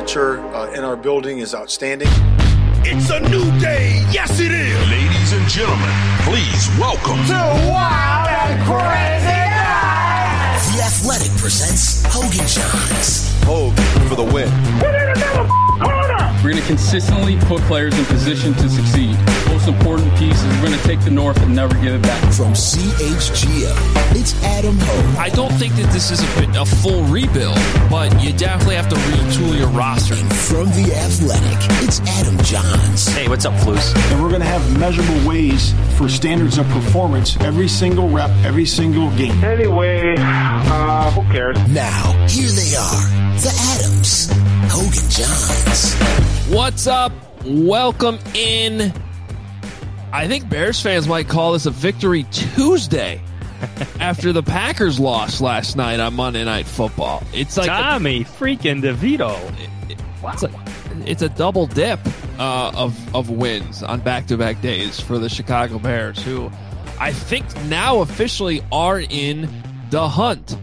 culture in our building is outstanding. It's a new day. Yes, it is. Ladies and gentlemen, please welcome to Wild and Crazy Guys. The Athletic presents Hogan Johns. Hogan for the win. Put in another corner. We're going to consistently put players in position to succeed. Most important piece is we're going to take the North and never give it back. From CHGO, it's Adam Ho. I don't think that this is a full rebuild, but you definitely have to retool your roster. And from The Athletic, it's Adam Johns. Hey, what's up, Flus? And we're going to have measurable ways for standards of performance every single rep, every single game. Anyway, who cares? Now, here they are, the Adams, Hogan Johns. What's up? Welcome in. I think Bears fans might call this a Victory Tuesday after the Packers lost last night on Monday Night Football. It's like Tommy freaking DeVito. Wow. It's a double dip of wins on back-to-back days for the Chicago Bears, who I think now officially are in the hunt.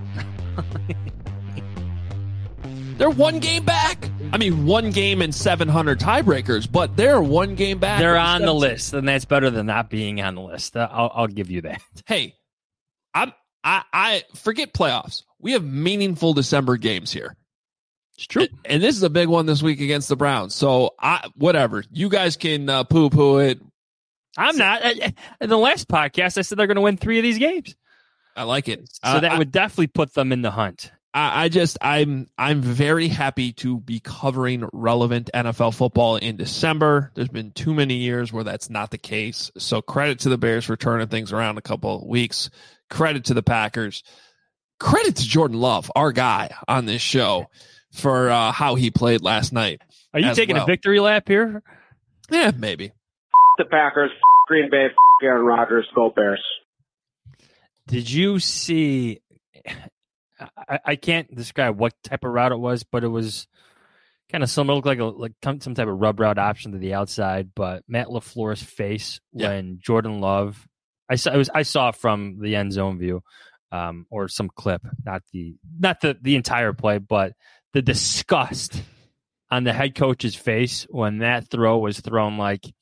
They're one game back. I mean, one game and 700 tiebreakers, but they're one game back. They're on the list, and that's better than not being on the list. I'll give you that. Hey, I forget playoffs. We have meaningful December games here. It's true. And this is a big one this week against the Browns. So, whatever. You guys can poo-poo it. I'm not. In the last podcast, I said they're going to win 3 of these games. I like it. So that would definitely put them in the hunt. I'm very happy to be covering relevant NFL football in December. There's been too many years where that's not the case. So credit to the Bears for turning things around a couple of weeks. Credit to the Packers. Credit to Jordan Love, our guy on this show, for how he played last night. Are you taking a victory lap here? Yeah, maybe. The Packers, Green Bay, Aaron Rodgers, go Bears. Did you see? I can't describe what type of route it was, but it was kind of similar. It looked like some type of rub route option to the outside. But Matt LaFleur's face when Jordan Love, I saw from the end zone view, or some clip, not the entire play, but the disgust on the head coach's face when that throw was thrown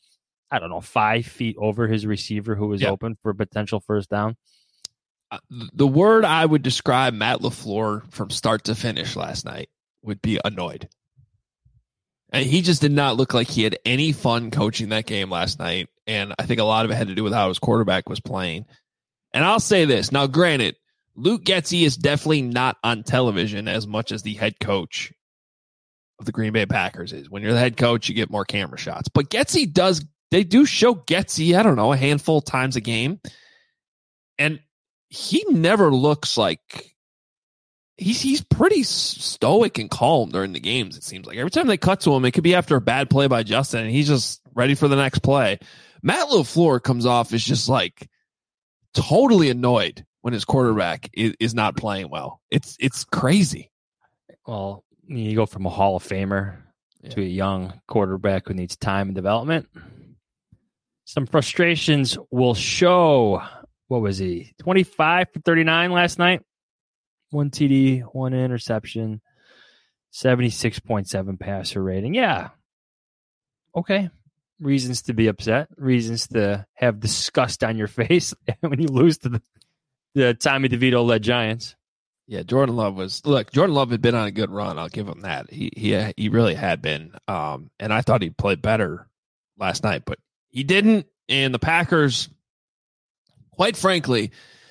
5 feet over his receiver who was open for a potential first down. The word I would describe Matt LaFleur from start to finish last night would be annoyed. And he just did not look like he had any fun coaching that game last night. And I think a lot of it had to do with how his quarterback was playing. And I'll say this. Now, granted, Luke Getsy is definitely not on television as much as the head coach of the Green Bay Packers is. When you're the head coach, you get more camera shots. But they do show Getsy, I don't know, a handful of times a game. And he never looks like he's pretty stoic and calm during the games. It seems like every time they cut to him, it could be after a bad play by Justin, and he's just ready for the next play. Matt LaFleur comes off as just totally annoyed when his quarterback is not playing well. It's crazy. Well, you go from a Hall of Famer to a young quarterback who needs time and development. Some frustrations will show. What was he? 25 for 39 last night. 1 TD, 1 interception, 76.7 passer rating. Yeah. Okay. Reasons to be upset. Reasons to have disgust on your face when you lose to the Tommy DeVito-led Giants. Yeah, Jordan Love had been on a good run. I'll give him that. He really had been. And I thought he played better last night, but he didn't. And the Packers, quite frankly,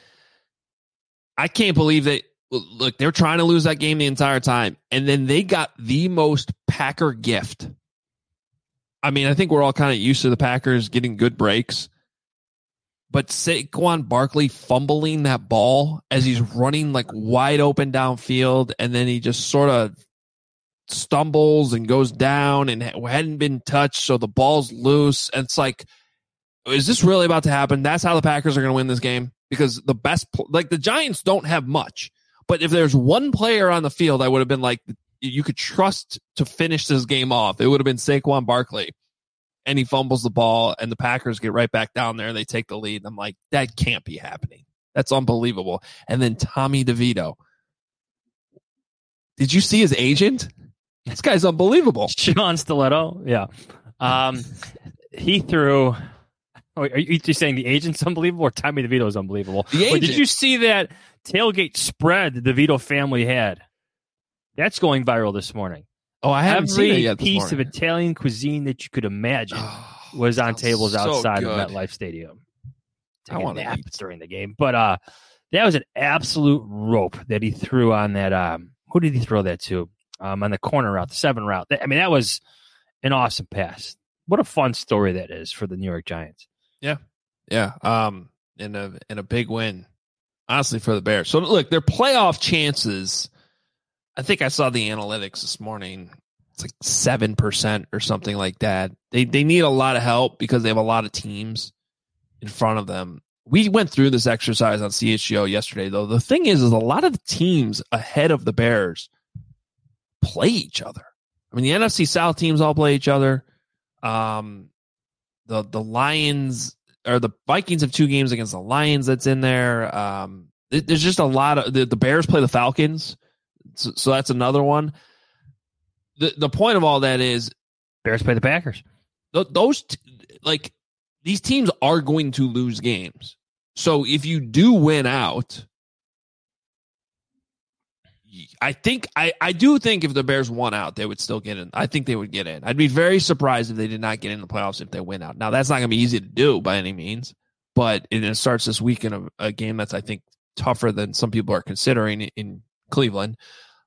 I can't believe that. Look, they're trying to lose that game the entire time, and then they got the most Packer gift. I mean, I think we're all kind of used to the Packers getting good breaks, but Saquon Barkley fumbling that ball as he's running wide open downfield, and then he just sort of stumbles and goes down and hadn't been touched, so the ball's loose. And it's is this really about to happen? That's how the Packers are going to win this game? Because the best, the Giants don't have much. But if there's one player on the field, I would have been you could trust to finish this game off. It would have been Saquon Barkley. And he fumbles the ball, and the Packers get right back down there, and they take the lead. And I'm like, that can't be happening. That's unbelievable. And then Tommy DeVito. Did you see his agent? This guy's unbelievable. Sean Stiletto. Yeah. He threw. Are you saying the agent's unbelievable or Tommy DeVito is unbelievable? Wait, did you see that tailgate spread the DeVito family had? That's going viral this morning. Oh, I haven't seen it yet. Every piece of Italian cuisine that you could imagine was on tables outside of MetLife Stadium. I want to nap during the game, but that was an absolute rope that he threw on that. Who did he throw that to? On the corner route, the 7 route. I mean, that was an awesome pass. What a fun story that is for the New York Giants. Yeah. And a big win, honestly, for the Bears. So look, their playoff chances. I think I saw the analytics this morning. It's like 7% or something like that. They need a lot of help because they have a lot of teams in front of them. We went through this exercise on CHGO yesterday, though. The thing is a lot of the teams ahead of the Bears play each other. I mean, the NFC South teams all play each other. The Lions or the Vikings have 2 games against the Lions that's in there. There's just a lot of the Bears play the Falcons. So that's another one. The point of all that is Bears play the Packers. These teams are going to lose games. So if you do win out, I do think if the Bears won out, they would still get in. I think they would get in. I'd be very surprised if they did not get in the playoffs if they win out. Now, that's not going to be easy to do by any means, but it starts this weekend of a game that's, I think, tougher than some people are considering in Cleveland.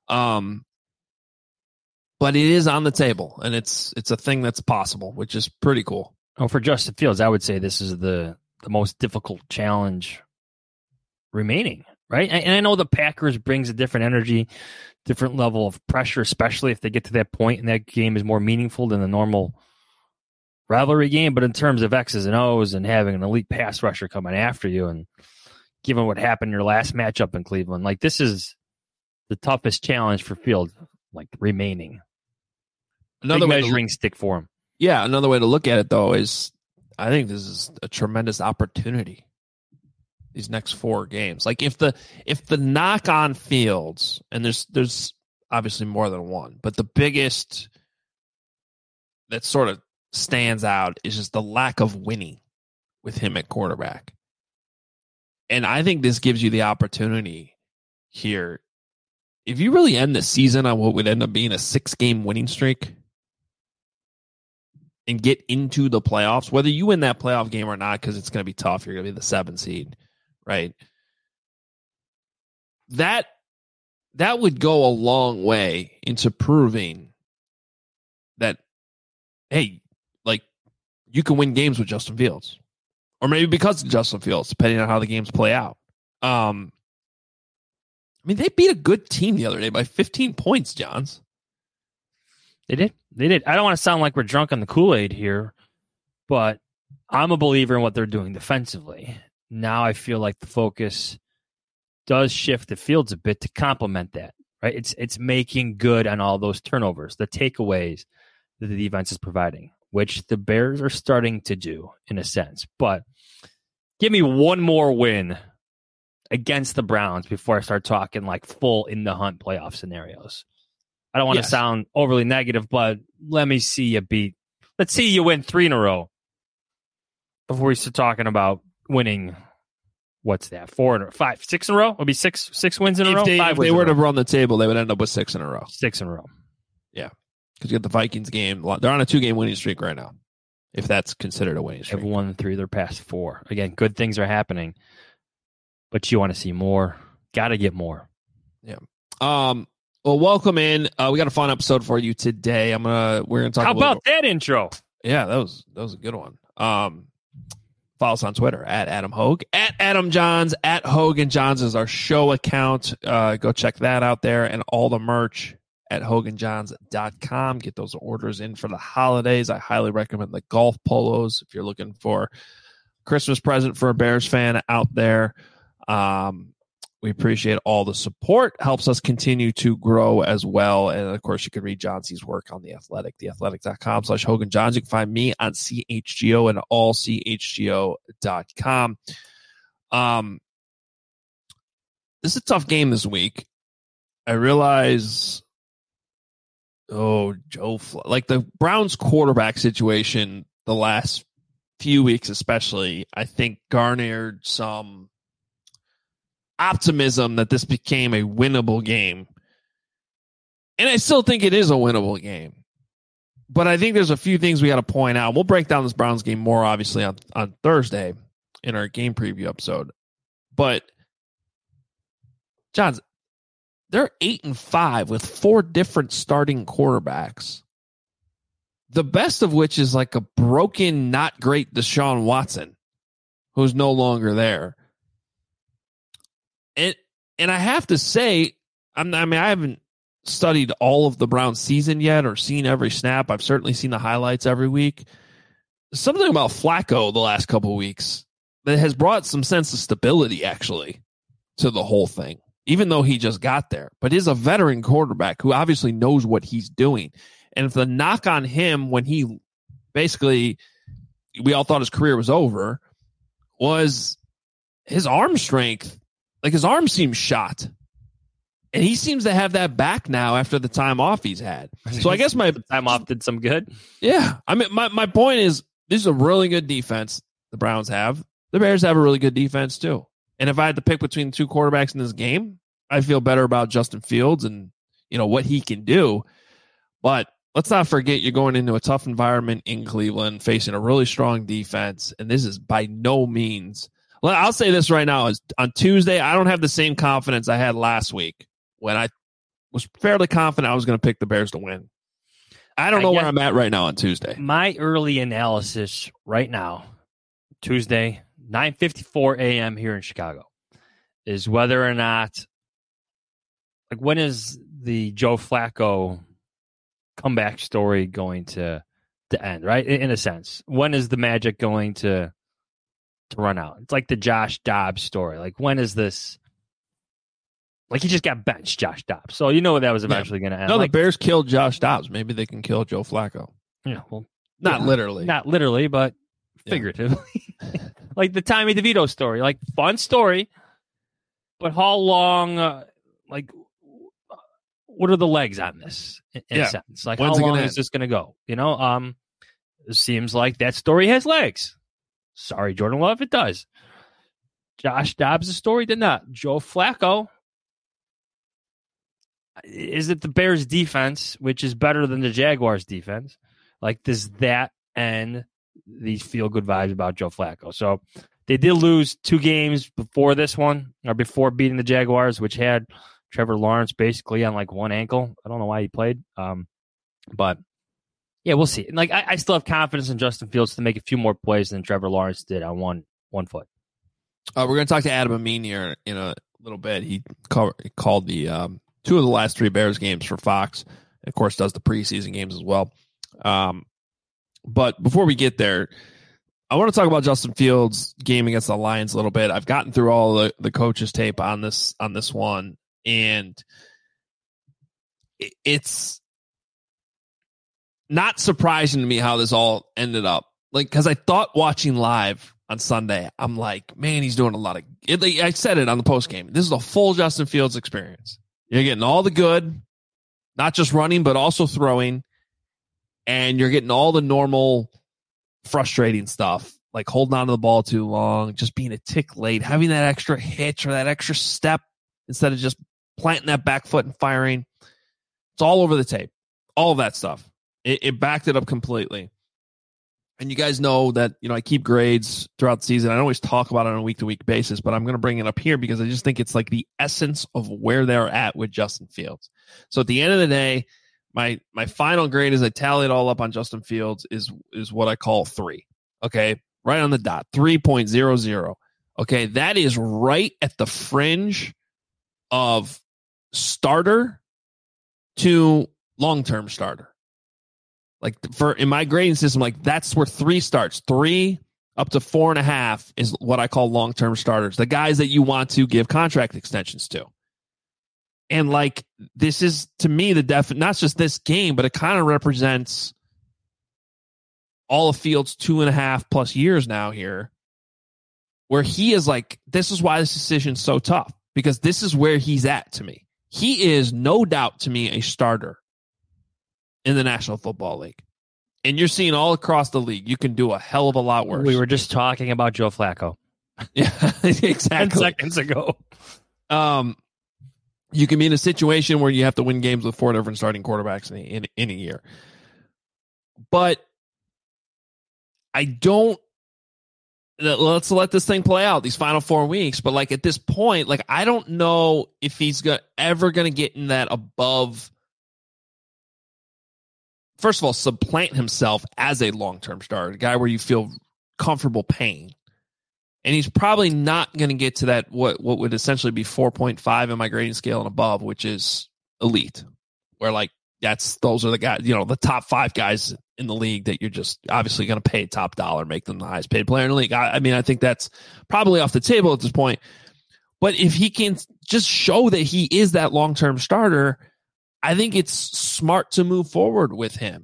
But it is on the table, and it's a thing that's possible, which is pretty cool. Oh, for Justin Fields, I would say this is the most difficult challenge remaining, right? And I know the Packers brings a different energy, different level of pressure, especially if they get to that point and that game is more meaningful than the normal rivalry game. But in terms of X's and O's and having an elite pass rusher coming after you, and given what happened in your last matchup in Cleveland, like this is the toughest challenge for Fields, like remaining. Another measuring stick for him. Yeah, another way to look at it, though, is I think this is a tremendous opportunity. These next 4 games, like if the knock on Fields, and there's obviously more than one, but the biggest that sort of stands out is just the lack of winning with him at quarterback. And I think this gives you the opportunity here. If you really end the season on what would end up being a 6-game winning streak and get into the playoffs, whether you win that playoff game or not, because it's going to be tough, you're going to be the 7th seed, right? That would go a long way into proving that, hey, like you can win games with Justin Fields, or maybe because of Justin Fields, depending on how the games play out. I mean, they beat a good team the other day by 15 points, Johns. They did. I don't want to sound like we're drunk on the Kool-Aid here, but I'm a believer in what they're doing defensively. Now I feel like the focus does shift the Fields a bit to complement that, right? It's making good on all those turnovers, the takeaways that the defense is providing, which the Bears are starting to do in a sense. But give me one more win against the Browns before I start talking like full in the hunt playoff scenarios. I don't want to sound overly negative, but let me see you beat. Let's see you win 3 in a row before we start talking about winning. What's that? 4 or 5, 6 in a row? It'll be six wins in a row. If they were to run the table, they would end up with 6 in a row. 6 in a row. Yeah, because you get the Vikings game. They're on a 2-game winning streak right now, if that's considered a winning streak. They've won 3 of their past 4. Again, good things are happening, but you want to see more. Got to get more. Yeah. Well, welcome in. We got a fun episode for you today. We're gonna talk. How about that intro? Yeah, that was a good one. Follow us on Twitter at Adam Hogue, at Adam Johns, at Hogan Johns is our show account. Go check that out there, and all the merch at HoganJohns.com. Get those orders in for the holidays. I highly recommend the golf polos if you're looking for a Christmas present for a Bears fan out there. We appreciate all the support. Helps us continue to grow as well. And, of course, you can read Johnson's work on The Athletic, theathletic.com/Hogan Johns. You can find me on CHGO and allchgo.com. This is a tough game this week. I realize like the Browns quarterback situation the last few weeks especially, I think garnered some optimism that this became a winnable game. And I still think it is a winnable game. But I think there's a few things we got to point out. We'll break down this Browns game more, obviously, on Thursday in our game preview episode. But, John, they're 8-5 with 4 different starting quarterbacks. The best of which is like a broken, not great Deshaun Watson, who's no longer there. And I have to say, I haven't studied all of the Browns season yet or seen every snap. I've certainly seen the highlights every week. Something about Flacco the last couple of weeks that has brought some sense of stability, actually, to the whole thing, even though he just got there. But is a veteran quarterback who obviously knows what he's doing. And if the knock on him when he basically, we all thought his career was over, was his arm strength. Like his arm seems shot. And he seems to have that back now after the time off he's had. So I guess my time off did some good. Yeah. I mean, my point is this is a really good defense the Browns have. The Bears have a really good defense too. And if I had to pick between 2 quarterbacks in this game, I feel better about Justin Fields and, what he can do. But let's not forget you're going into a tough environment in Cleveland, facing a really strong defense. And this is by no means, I'll say this right now, is on Tuesday, I don't have the same confidence I had last week when I was fairly confident I was going to pick the Bears to win. I don't know where I'm at right now on Tuesday. My early analysis right now, Tuesday, 9:54 a.m. here in Chicago, is whether or not, like, when is the Joe Flacco comeback story going to end, right? In a sense. When is the magic going to run out? It's like the Josh Dobbs story. Like, when is this? Like, he just got benched, Josh Dobbs. So you know that was eventually going to end. No, the Bears killed Josh Dobbs. Maybe they can kill Joe Flacco. Yeah, well, not literally. Not literally, but figuratively. Like the Tommy DeVito story. Like, fun story. But how long, what are the legs on this, in a sense? Like, how long is this going to go? It seems like that story has legs. Sorry, Jordan Love, it does. Josh Dobbs' story did not. Joe Flacco, is it the Bears' defense, which is better than the Jaguars' defense? Like, does that end these feel-good vibes about Joe Flacco? So they did lose 2 games before this one, or before beating the Jaguars, which had Trevor Lawrence basically on like one ankle. I don't know why he played. But yeah, we'll see. And like, I still have confidence in Justin Fields to make a few more plays than Trevor Lawrence did on one foot. We're going to talk to Adam Amin here in a little bit. He called the 2 of the last 3 Bears games for Fox. And of course, does the preseason games as well. But before we get there, I want to talk about Justin Fields' game against the Lions a little bit. I've gotten through all the coaches' tape on this one, and it's not surprising to me how this all ended up. Like, because I thought watching live on Sunday, I'm like, man, he's doing a lot of it. I said it on the post game. This is a full Justin Fields experience. You're getting all the good, not just running, but also throwing. And you're getting all the normal frustrating stuff, like holding on to the ball too long, just being a tick late, having that extra hitch or that extra step instead of just planting that back foot and firing. It's all over the tape. All of that stuff. It backed it up completely. And you guys know that, I keep grades throughout the season. I don't always talk about it on a week-to-week basis, but I'm going to bring it up here because I just think it's like the essence of where they're at with Justin Fields. So at the end of the day, my final grade as I tally it all up on Justin Fields is what I call 3. Okay, right on the dot, 3.00. Okay, that is right at the fringe of starter to long-term starter. Like in my grading system, like that's where 3 starts. 3 up to 4.5 is what I call long-term starters. The guys that you want to give contract extensions to. And like, this is to me not just this game, but it kind of represents all of Fields' 2.5 plus years now here, where he is like, this is why this decision's so tough, because this is where he's at to me. He is no doubt to me a starter. in the National Football League. And you're seeing all across the league, you can do a hell of a lot worse. We were just talking about Joe Flacco. Yeah, exactly. 10 seconds ago. You can be in a situation where you have to win games with 4 different starting quarterbacks in a year. But let's let this thing play out these final 4 weeks. But like at this point, like I don't know if he's ever going to get in that above. First of all, supplant himself as a long-term starter, a guy where you feel comfortable paying. And he's probably not going to get to that what would essentially be 4.5 in my grading scale and above, which is elite. Where like those are the guys, the top 5 guys in the league that you're just obviously going to pay top dollar, make them the highest paid player in the league. I mean, I think that's probably off the table at this point. But if he can just show that he is that long-term starter, I think it's smart to move forward with him.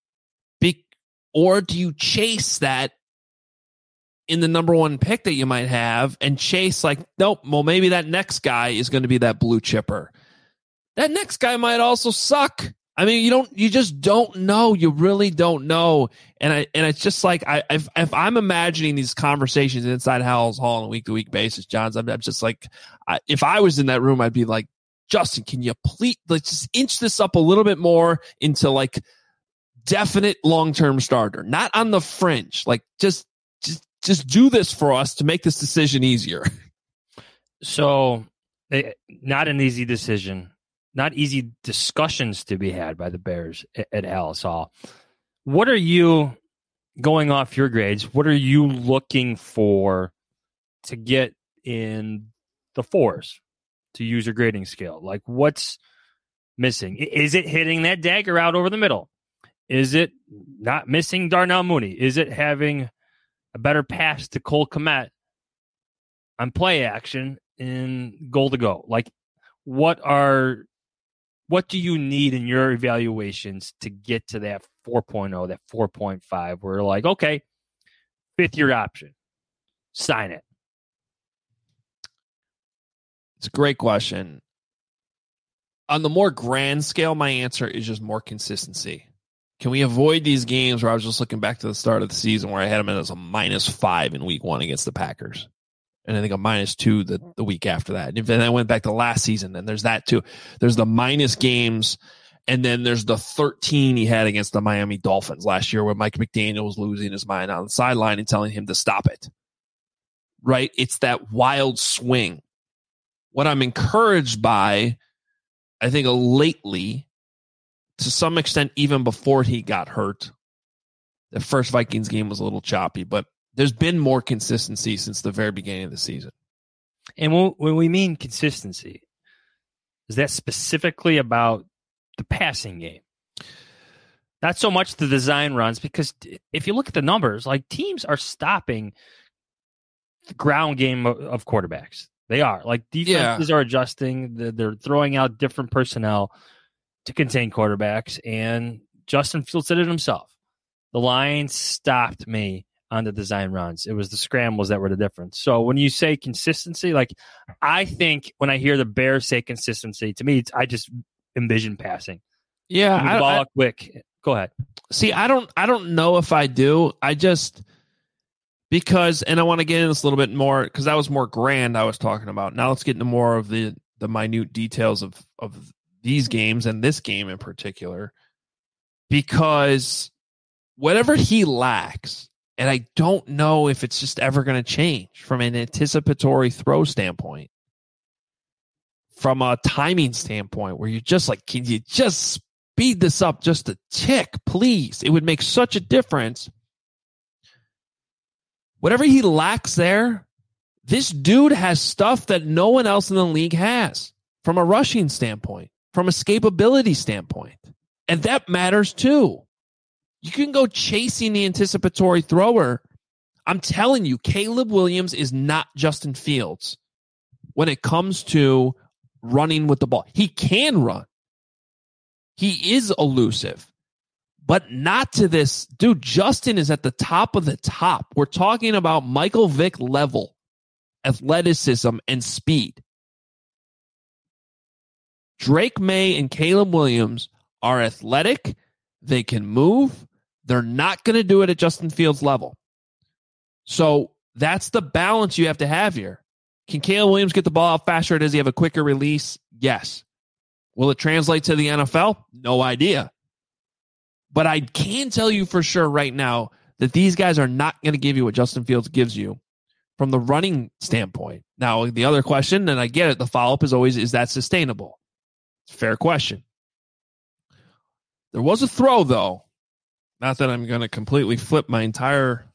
Or do you chase that in the number 1 pick that you might have and chase like, nope, well, maybe that next guy is going to be that blue chipper. That next guy might also suck. I mean, you just don't know. You really don't know. And it's just like, if I'm imagining these conversations inside Howell's Hall on a week-to-week basis, Johns, I'm just like, if I was in that room, I'd be like, Justin, can you please let's just inch this up a little bit more into like definite long-term starter, not on the fringe. Like just do this for us to make this decision easier. So not an easy decision, not easy discussions to be had by the Bears at Howell's Hall. What are you, going off your grades, what are you looking for to get in the 4s? To use your grading scale? Like what's missing? Is it hitting that dagger out over the middle? Is it not missing Darnell Mooney? Is it having a better pass to Cole Kmet on play action in goal to go? Like what do you need in your evaluations to get to that 4.0, that 4.5 where like, okay, 5th year option, sign it? It's a great question. On the more grand scale, my answer is just more consistency. Can we avoid these games where I was just looking back to the start of the season where I had them as a -5 in week 1 against the Packers? And I think a -2 the week after that. And then I went back to last season, and there's that too. There's the minus games, and then there's the 13 he had against the Miami Dolphins last year where Mike McDaniel was losing his mind on the sideline and telling him to stop it. Right? It's that wild swing. What I'm encouraged by, I think lately, to some extent, even before he got hurt, the first Vikings game was a little choppy, but there's been more consistency since the very beginning of the season. And when we mean consistency, is that specifically about the passing game? Not so much the design runs, because if you look at the numbers, like teams are stopping the ground game of quarterbacks. They are. Like defenses are adjusting. They're throwing out different personnel to contain quarterbacks. And Justin Fields said it himself. The Lions stopped me on the design runs. It was the scrambles that were the difference. So when you say consistency, like I think when I hear the Bears say consistency, to me, I just envision passing. Yeah. The ball out quick. Go ahead. See, I don't know if I do. Because, and I want to get into this a little bit more because that was more grand I was talking about. Now let's get into more of the minute details of these games and this game in particular. Because whatever he lacks, and I don't know if it's just ever going to change from an anticipatory throw standpoint, from a timing standpoint, where you're just like, can you just speed this up just a tick, please? It would make such a difference. Whatever he lacks there, this dude has stuff that no one else in the league has from a rushing standpoint, from a escapability standpoint. And that matters too. You can go chasing the anticipatory thrower. I'm telling you, Caleb Williams is not Justin Fields when it comes to running with the ball. He can run. He is elusive. But not to this. Dude, Justin is at the top of the top. We're talking about Michael Vick level athleticism and speed. Drake May and Caleb Williams are athletic. They can move. They're not going to do it at Justin Fields' level. So that's the balance you have to have here. Can Caleb Williams get the ball out faster? Does he have a quicker release? Yes. Will it translate to the NFL? No idea. But I can tell you for sure right now that these guys are not going to give you what Justin Fields gives you from the running standpoint. Now, the other question, and I get it, the follow-up is always, is that sustainable? It's a fair question. There was a throw, though. Not that I'm going to completely flip my entire,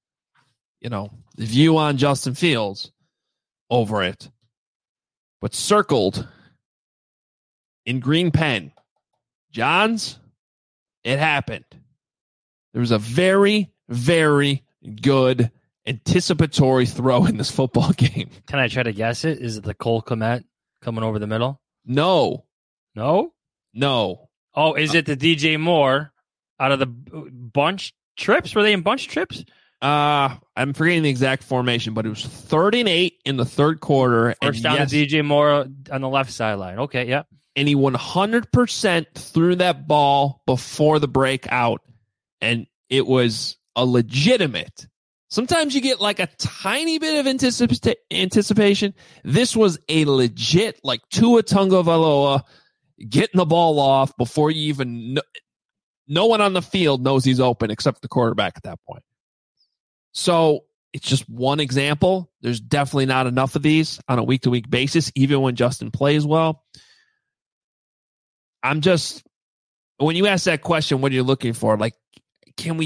view on Justin Fields over it, but circled in green pen. Johns, it happened. There was a very, very good anticipatory throw in this football game. Can I try to guess it? Is it the Cole Kmet coming over the middle? No. No? No. Oh, is it the DJ Moore out of the bunch trips? Were they in bunch trips? I'm forgetting the exact formation, but it was 3rd and 8 in the third quarter. First down to DJ Moore on the left sideline. Okay, yeah. And he 100% threw that ball before the breakout, and it was a legitimate. Sometimes you get like a tiny bit of anticipation. This was a legit, like Tua Tagovailoa getting the ball off before you even no one on the field knows he's open except the quarterback at that point. So it's just one example. There's definitely not enough of these on a week-to-week basis, even when Justin plays well. When you ask that question, what are you looking for? Like, can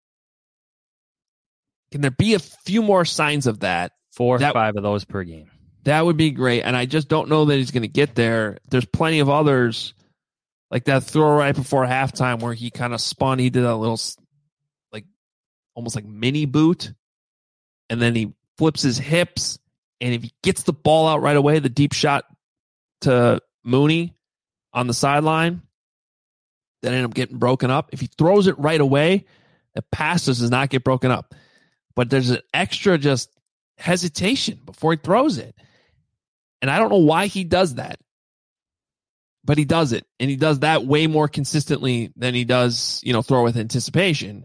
there be a few more signs of that? 4 or 5 of those per game. That would be great. And I just don't know that he's going to get there. There's plenty of others, like that throw right before halftime where he kind of spun. He did a little, like, almost like mini boot. And then he flips his hips. And if he gets the ball out right away, the deep shot to Mooney on the sideline, that ended up getting broken up. If he throws it right away, the pass does not get broken up. But there's an extra just hesitation before he throws it. And I don't know why he does that. But he does it. And he does that way more consistently than he does, throw with anticipation.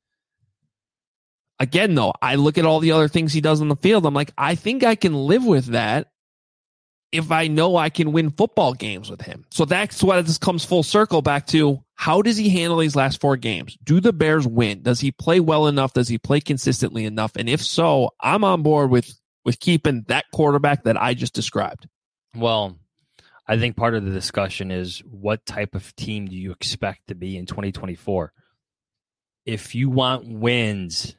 Again, though, I look at all the other things he does on the field. I'm like, I think I can live with that if I know I can win football games with him. So that's why this comes full circle back to, how does he handle these last 4 games? Do the Bears win? Does he play well enough? Does he play consistently enough? And if so, I'm on board with keeping that quarterback that I just described. Well, I think part of the discussion is, what type of team do you expect to be in 2024? If you want wins,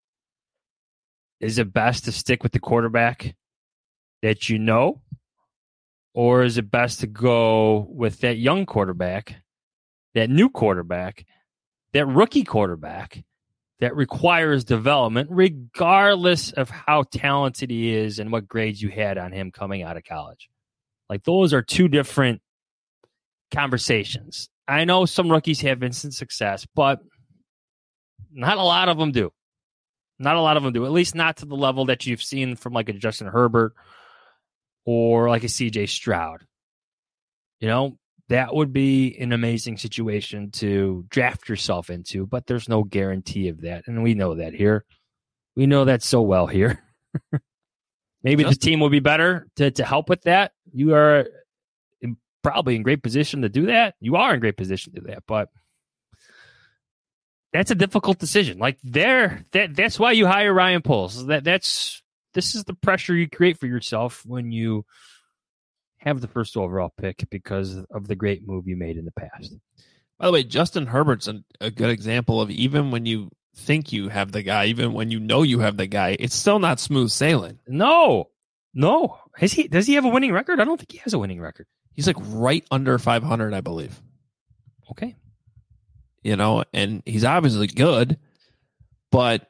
is it best to stick with the quarterback that you know? Or is it best to go with that young quarterback, that new quarterback, that rookie quarterback that requires development regardless of how talented he is and what grades you had on him coming out of college? Like, those are 2 different conversations. I know some rookies have instant success, but not a lot of them do. Not a lot of them do, at least not to the level that you've seen from like a Justin Herbert or like a CJ Stroud. That would be an amazing situation to draft yourself into, but there's no guarantee of that. And we know that here. We know that so well here. Maybe the team will be better to help with that. You are probably in great position to do that. You are in great position to do that, but that's a difficult decision. Like, that's why you hire Ryan Poles. This is the pressure you create for yourself when you have the first overall pick because of the great move you made in the past. By the way, Justin Herbert's a good example of, even when you think you have the guy, even when you know you have the guy, it's still not smooth sailing. No. Does he have a winning record? I don't think he has a winning record. He's like right under 500, I believe. Okay. And he's obviously good, but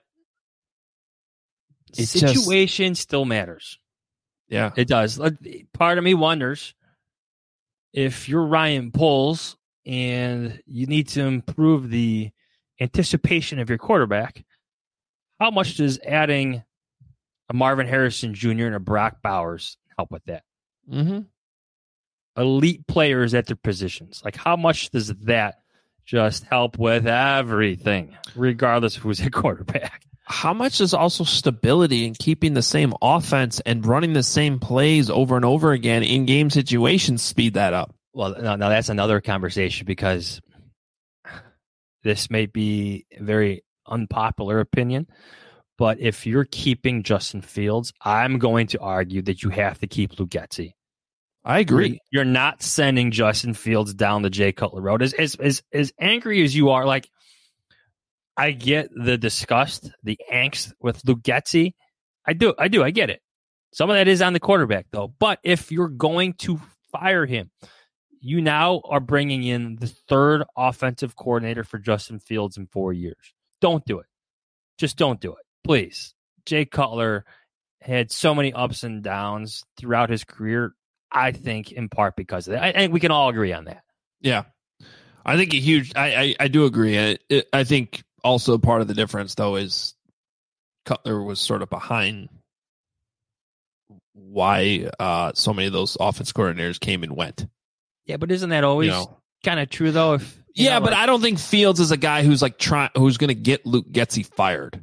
situation still matters. Yeah, it does. Part of me wonders if you're Ryan Poles and you need to improve the anticipation of your quarterback, how much does adding a Marvin Harrison Jr. and a Brock Bowers help with that? Mm-hmm. Elite players at their positions. Like, how much does that just help with everything, regardless of who's at quarterback. How much is also stability and keeping the same offense and running the same plays over and over again in game situations speed that up? Well, now that's another conversation, because this may be a very unpopular opinion, but if you're keeping Justin Fields, I'm going to argue that you have to keep Luke Getsy. I agree. You're not sending Justin Fields down the Jay Cutler road. As angry as you are, like, I get the disgust, the angst with Luke Getsy. I do. I get it. Some of that is on the quarterback, though. But if you're going to fire him, you now are bringing in the third offensive coordinator for Justin Fields in 4 years. Don't do it. Just don't do it, please. Jay Cutler had so many ups and downs throughout his career, I think, in part because of that. I think we can all agree on that. Yeah. I think I do agree. I think also part of the difference, though, is Cutler was sort of behind why so many of those offense coordinators came and went. Yeah, but isn't that always kind of true, though? But I don't think Fields is a guy who's like who's going to get Luke Getsy fired.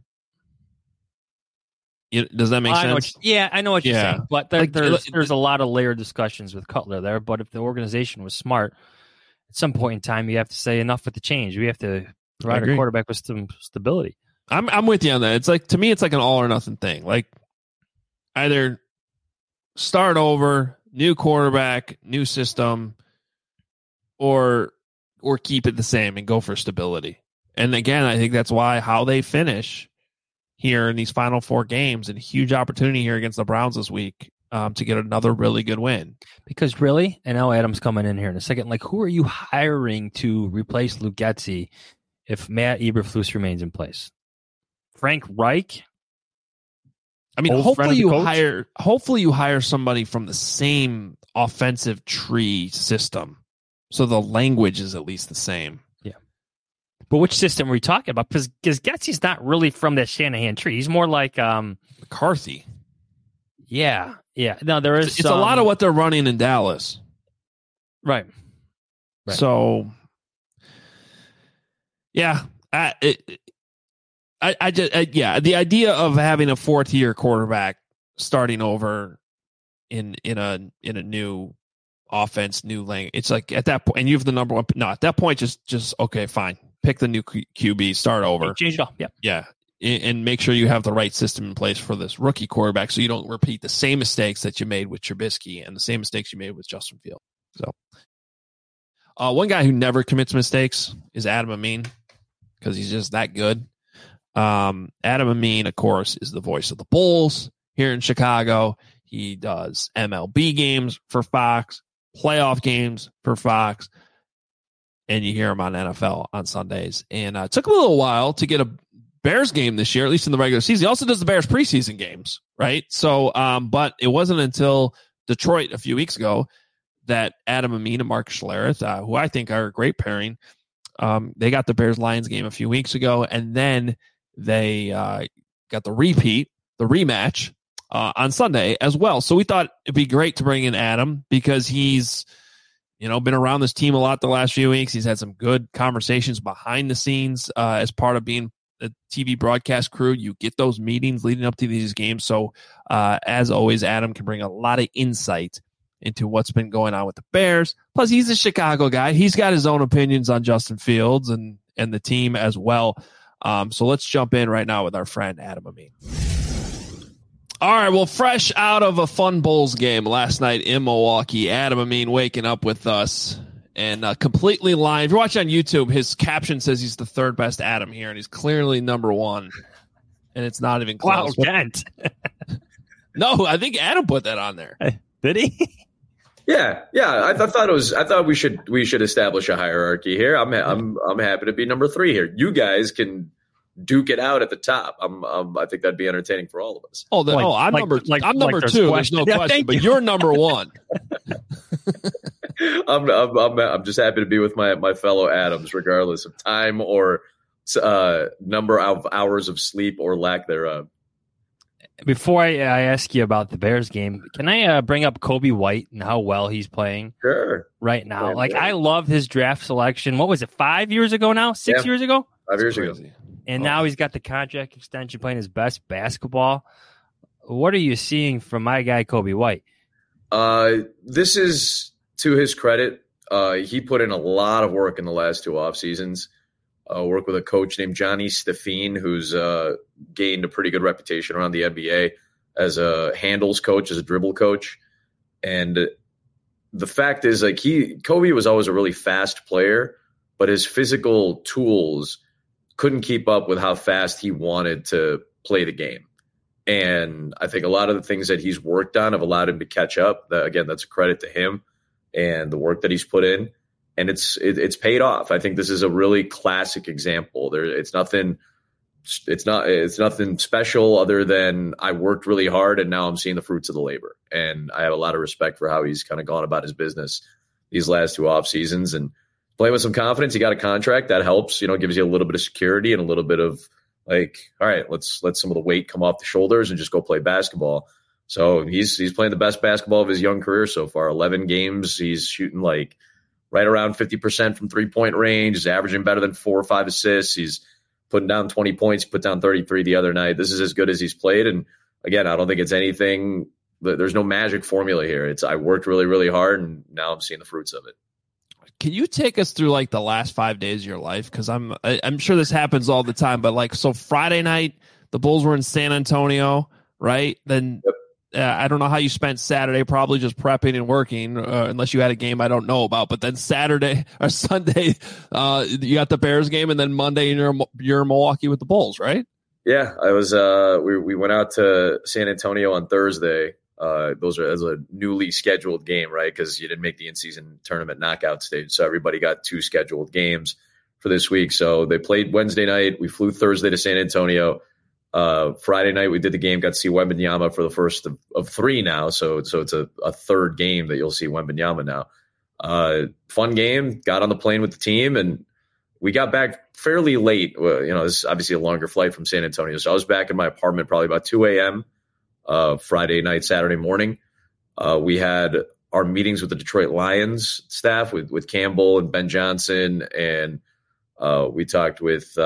Does that make sense? I know what you're saying. But there's a lot of layered discussions with Cutler there. But if the organization was smart, at some point in time, you have to say enough with the change. We have to provide a quarterback with some stability. I'm with you on that. It's like, to me, it's like an all or nothing thing. Like, either start over, new quarterback, new system, or keep it the same and go for stability. And again, I think that's how they finish here in these final 4 games, and a huge opportunity here against the Browns this week to get another really good win. Because really, and now Adam's coming in here in a second, like, who are you hiring to replace Luke Getsy if Matt Eberflus remains in place? Frank Reich? I mean, hopefully you hire somebody from the same offensive tree system, so the language is at least the same. Yeah. But which system are we talking about? Because Getsy's not really from that Shanahan tree. He's more like McCarthy. Yeah. No, there is. It's a lot of what they're running in Dallas. Right. So, yeah, the idea of having a 4th-year quarterback starting over in a new offense, new language. It's like at that point, and you have the number one. No, at that point, just okay, fine. Pick the new QB, start over, change it all. Yeah, and make sure you have the right system in place for this rookie quarterback, so you don't repeat the same mistakes that you made with Trubisky and the same mistakes you made with Justin Fields. So, one guy who never commits mistakes is Adam Amin, because he's just that good. Adam Amin, of course, is the voice of the Bulls here in Chicago. He does MLB games for Fox, playoff games for Fox, and you hear him on NFL on Sundays. And it took him a little while to get a Bears game this year, at least in the regular season. He also does the Bears preseason games, right? So, but it wasn't until Detroit a few weeks ago that Adam Amin and Mark Schlereth, who I think are a great pairing, they got the Bears-Lions game a few weeks ago, and then they got the rematch on Sunday as well. So we thought it'd be great to bring in Adam, because he's been around this team a lot the last few weeks. He's had some good conversations behind the scenes as part of being the TV broadcast crew. You get those meetings leading up to these games. So as always, Adam can bring a lot of insight into what's been going on with the Bears. Plus, he's a Chicago guy. He's got his own opinions on Justin Fields and the team as well. So let's jump in right now with our friend Adam Amin. All right, well, fresh out of a fun Bulls game last night in Milwaukee, Adam Amin waking up with us and completely lying. If you're watching on YouTube, his caption says he's the 3rd best Adam here, and he's clearly number 1, and it's not even close. Wow, Kent. No, I think Adam put that on there. Did he? Yeah. I thought we should establish a hierarchy here. I'm happy to be number 3 here. You guys can duke it out at the top. I think that'd be entertaining for all of us. I'm number 2. There's no question, but you're number 1. I'm just happy to be with my fellow Adams, regardless of time or number of hours of sleep or lack thereof. Before I ask you about the Bears game, can I bring up Kobe White and how well he's playing right now? I love his draft selection. What was it, 5 years ago now? 6 years ago? 5 years ago. And now he's got the contract extension, playing his best basketball. What are you seeing from my guy, Kobe White? This is to his credit. He put in a lot of work in the last 2 off seasons. Work with a coach named Johnny Steffine, who's gained a pretty good reputation around the NBA as a handles coach, as a dribble coach. And the fact is, Kobe was always a really fast player, but his physical tools couldn't keep up with how fast he wanted to play the game. And I think a lot of the things that he's worked on have allowed him to catch up. Again, that's a credit to him and the work that he's put in. And it's paid off. I think this is a really classic example. It's nothing special other than I worked really hard and now I'm seeing the fruits of the labor. And I have a lot of respect for how he's kind of gone about his business these last 2 off seasons and playing with some confidence. He got a contract that helps, gives you a little bit of security and a little bit of all right, let's let some of the weight come off the shoulders and just go play basketball. So he's playing the best basketball of his young career so far. 11 games. He's shooting right around 50% from 3-point range. He's averaging better than 4 or 5 assists. He's putting down 20 points, put down 33 the other night. This is as good as he's played. And again, I don't think it's anything. There's no magic formula here. I worked really, really hard, and now I'm seeing the fruits of it. Can you take us through the last 5 days of your life? Because I'm sure this happens all the time. But so Friday night, the Bulls were in San Antonio, right? Then. Yep. I don't know how you spent Saturday, probably just prepping and working, unless you had a game I don't know about. But then Saturday or Sunday, you got the Bears game, and then Monday you're in Milwaukee with the Bulls, right? Yeah, I was. We went out to San Antonio on Thursday. Those are as a newly scheduled game, right? Because you didn't make the in-season tournament knockout stage, so everybody got 2 scheduled games for this week. So they played Wednesday night. We flew Thursday to San Antonio. Friday night we did the game, got to see Wembanyama for the first of 3 now. So it's a third game that you'll see Wembanyama now. Fun game, got on the plane with the team, and we got back fairly late. This is obviously a longer flight from San Antonio. So I was back in my apartment probably about 2 a.m. Friday night, Saturday morning. We had our meetings with the Detroit Lions staff with Campbell and Ben Johnson. And we talked with,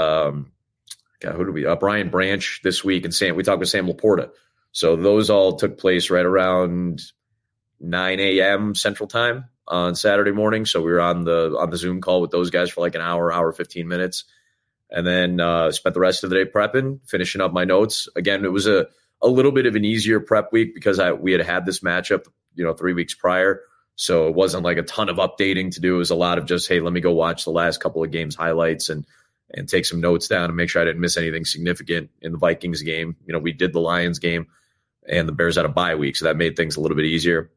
Brian Branch this week, and we talked with Sam Laporta. So those all took place right around 9 a.m. Central Time on Saturday morning. So we were on the Zoom call with those guys for an hour 15 minutes, and then spent the rest of the day prepping, finishing up my notes. Again, it was a little bit of an easier prep week because we had this matchup, 3 weeks prior. So it wasn't a ton of updating to do. It was a lot of just, hey, let me go watch the last couple of games highlights and take some notes down and make sure I didn't miss anything significant in the Vikings game. We did the Lions game, and the Bears had a bye week, so that made things a little bit easier.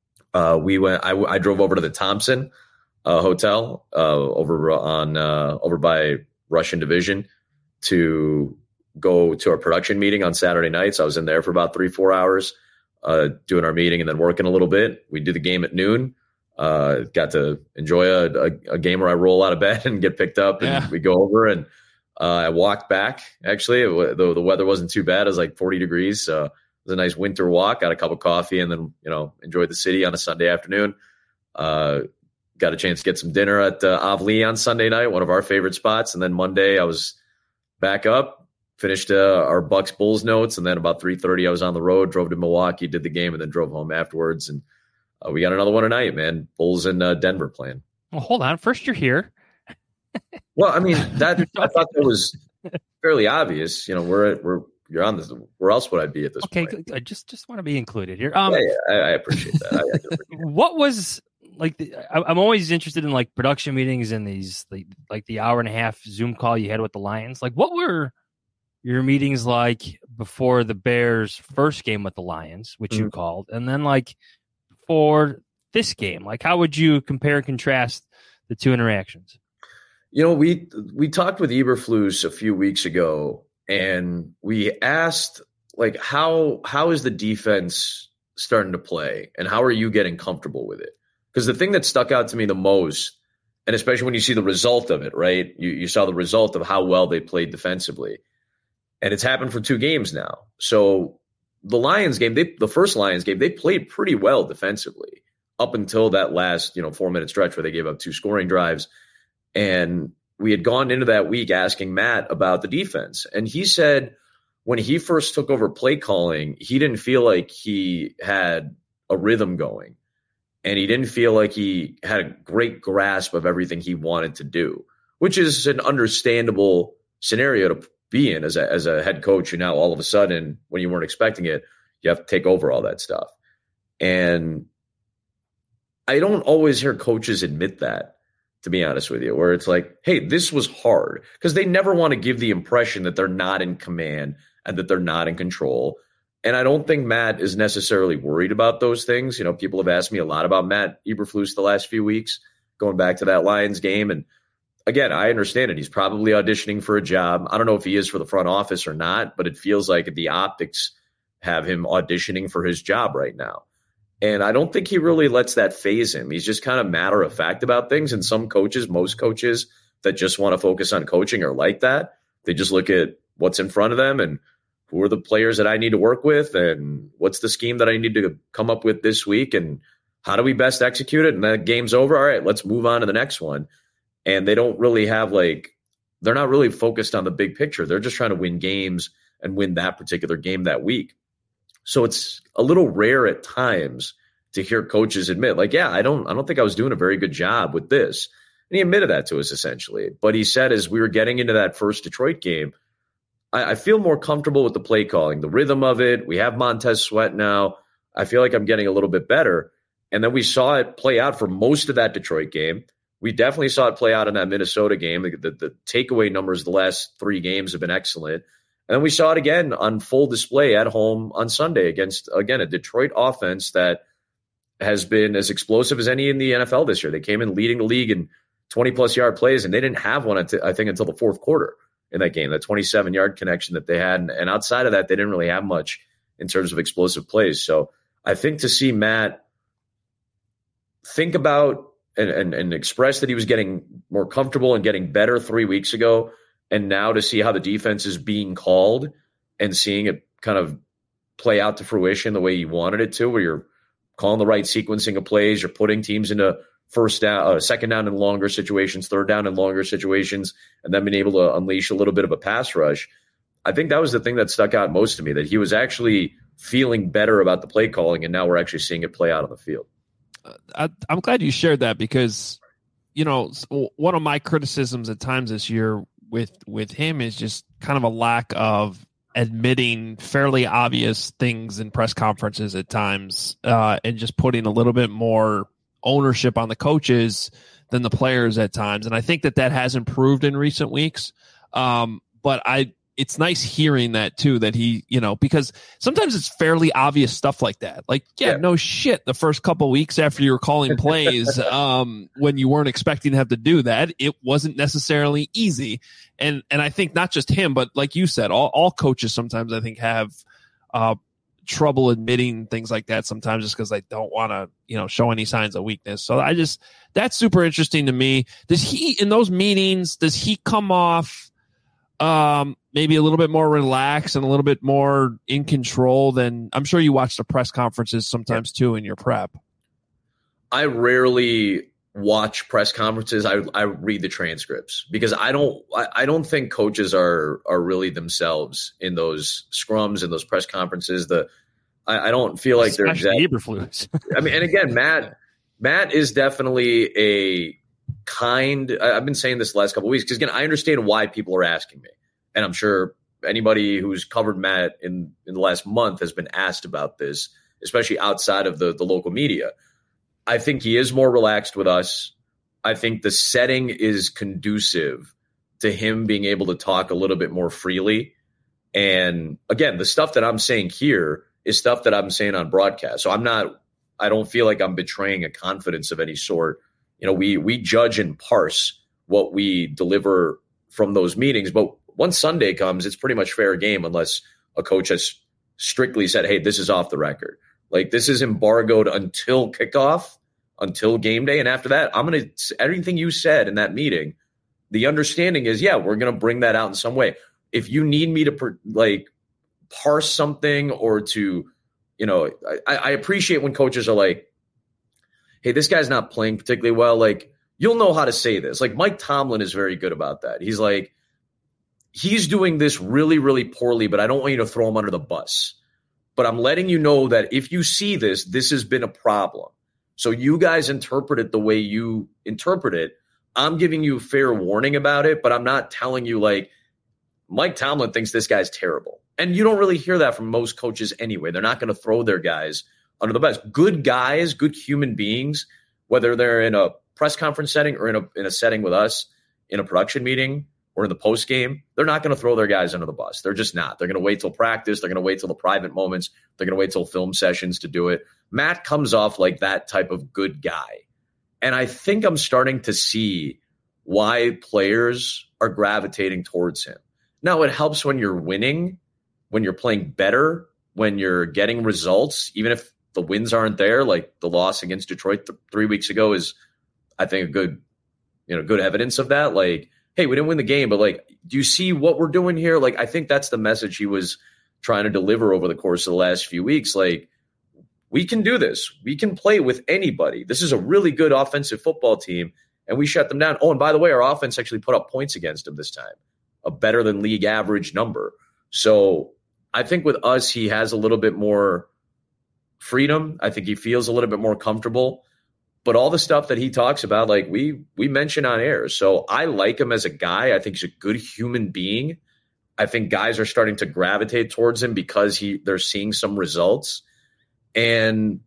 I drove over to the Thompson Hotel over by Russian Division to go to our production meeting on Saturday nights. I was in there for about 3-4 hours doing our meeting and then working a little bit. We did the game at noon. Got to enjoy a game where I roll out of bed and get picked up, and we go over, and I walked back. Actually, the weather wasn't too bad. It was 40 degrees. So it was a nice winter walk. Got a cup of coffee, and then enjoyed the city on a Sunday afternoon. Got a chance to get some dinner at Avli on Sunday night, one of our favorite spots. And then Monday I was back up, finished our Bucks Bulls notes, and then about 3:30 I was on the road, drove to Milwaukee, did the game, and then drove home afterwards. And we got another one tonight, man. Bulls in Denver playing. Well, hold on. First, you're here. Well, I mean, I thought that was fairly obvious. You're on this. Where else would I be at this point? Okay, I just want to be included here. I appreciate that. What was I'm always interested in production meetings and these the hour and a half Zoom call you had with the Lions. What were your meetings like before the Bears' first game with the Lions, which you called, and then for this game? How would you compare and contrast the two interactions? We talked with Eberflus a few weeks ago, and we asked how is the defense starting to play, and how are you getting comfortable with it? Because the thing that stuck out to me the most, and especially when you see the result of it, right? You saw the result of how well they played defensively, and it's happened for 2 games now. So the Lions game, the first Lions game, they played pretty well defensively up until that last 4-minute stretch where they gave up 2 scoring drives. And we had gone into that week asking Matt about the defense. And he said when he first took over play calling, he didn't feel like he had a rhythm going. And he didn't feel like he had a great grasp of everything he wanted to do, which is an understandable scenario to be in as a head coach. Now, all of a sudden, when you weren't expecting it, you have to take over all that stuff. And I don't always hear coaches admit that, to be honest with you, where it's like, hey, this was hard, because they never want to give the impression that they're not in command and that they're not in control. And I don't think Matt is necessarily worried about those things. People have asked me a lot about Matt Eberflus the last few weeks, going back to that Lions game. And again, I understand it. He's probably auditioning for a job. I don't know if he is for the front office or not, but it feels like the optics have him auditioning for his job right now. And I don't think he really lets that faze him. He's just kind of matter of fact about things. And some coaches, most coaches that just want to focus on coaching are like that. They just look at what's in front of them and who are the players that I need to work with and what's the scheme that I need to come up with this week and how do we best execute it? And that game's over. All right, let's move on to the next one. And they don't really have they're not really focused on the big picture. They're just trying to win games and win that particular game that week. So it's a little rare at times to hear coaches admit, I don't think I was doing a very good job with this. And he admitted that to us essentially. But he said as we were getting into that first Detroit game, I feel more comfortable with the play calling, the rhythm of it. We have Montez Sweat now. I feel like I'm getting a little bit better. And then we saw it play out for most of that Detroit game. We definitely saw it play out in that Minnesota game. The takeaway numbers the last 3 games have been excellent. And then we saw it again on full display at home on Sunday against, again, a Detroit offense that has been as explosive as any in the NFL this year. They came in leading the league in 20-plus yard plays, and they didn't have one, I think, until the fourth quarter in that game, that 27-yard connection that they had. And outside of that, they didn't really have much in terms of explosive plays. So I think to see Matt think about and express that he was getting more comfortable and getting better 3 weeks ago, and now to see how the defense is being called and seeing it kind of play out to fruition the way you wanted it to, where you're calling the right sequencing of plays, you're putting teams into second down in longer situations, third down in longer situations, and then being able to unleash a little bit of a pass rush. I think that was the thing that stuck out most to me, that he was actually feeling better about the play calling, and now we're actually seeing it play out on the field. I'm glad you shared that, because, one of my criticisms at times this year with him is just kind of a lack of admitting fairly obvious things in press conferences at times, and just putting a little bit more ownership on the coaches than the players at times. And I think that has improved in recent weeks. But it's nice hearing that too, that he, because sometimes it's fairly obvious stuff like that. No shit. The first couple of weeks after you were calling plays, when you weren't expecting to have to do that, it wasn't necessarily easy. And I think not just him, but like you said, all coaches sometimes I think have, trouble admitting things like that sometimes, just because they don't want to, show any signs of weakness. So that's super interesting to me. In those meetings, does he come off, maybe a little bit more relaxed and a little bit more in control than, I'm sure you watch the press conferences sometimes too in your prep? I rarely watch press conferences. I read the transcripts, because I don't think coaches are really themselves in those scrums and those press conferences. I don't feel like they're exactly Eberflus. I mean, and again, Matt is definitely a kind. I've been saying this the last couple of weeks, because again, I understand why people are asking me. And I'm sure anybody who's covered Matt in the last month has been asked about this, especially outside of the local media. I think he is more relaxed with us. I think the setting is conducive to him being able to talk a little bit more freely. And again, the stuff that I'm saying here is stuff that I'm saying on broadcast. So I don't feel like I'm betraying a confidence of any sort. We judge and parse what we deliver from those meetings, but once Sunday comes, it's pretty much fair game unless a coach has strictly said, hey, this is off the record. This is embargoed until kickoff, until game day. And after that, everything you said in that meeting, the understanding is, we're going to bring that out in some way. If you need me to parse something or to, I appreciate when coaches are like, hey, this guy's not playing particularly well. Like, you'll know how to say this. Like, Mike Tomlin is very good about that. He's like, he's doing this really, really poorly, but I don't want you to throw him under the bus. But I'm letting you know that if you see this, this has been a problem. So you guys interpret it the way you interpret it. I'm giving you fair warning about it, but I'm not telling you like Mike Tomlin thinks this guy's terrible. And you don't really hear that from most coaches anyway. They're not going to throw their guys under the bus. Good guys, good human beings, whether they're in a press conference setting or in a setting with us, in a production meeting or in the post game, they're not going to throw their guys under the bus. They're just not. They're going to wait till practice. They're going to wait till the private moments. They're going to wait till film sessions to do it. Matt comes off like that type of good guy. And I think I'm starting to see why players are gravitating towards him. Now, it helps when you're winning, when you're playing better, when you're getting results, even if the wins aren't there, like the loss against Detroit 3 weeks ago is, I think, a good evidence of that. Like, hey, we didn't win the game, but like, do you see what we're doing here? Like, I think that's the message he was trying to deliver over the course of the last few weeks. Like, we can do this. We can play with anybody. This is a really good offensive football team, and we shut them down. Oh, and by the way, our offense actually put up points against them this time, a better than league average number. So I think with us, he has a little bit more freedom. I think he feels a little bit more comfortable. But all the stuff that he talks about, like we mention on air. So I like him as a guy. I think he's a good human being. I think guys are starting to gravitate towards him because they're seeing some results. And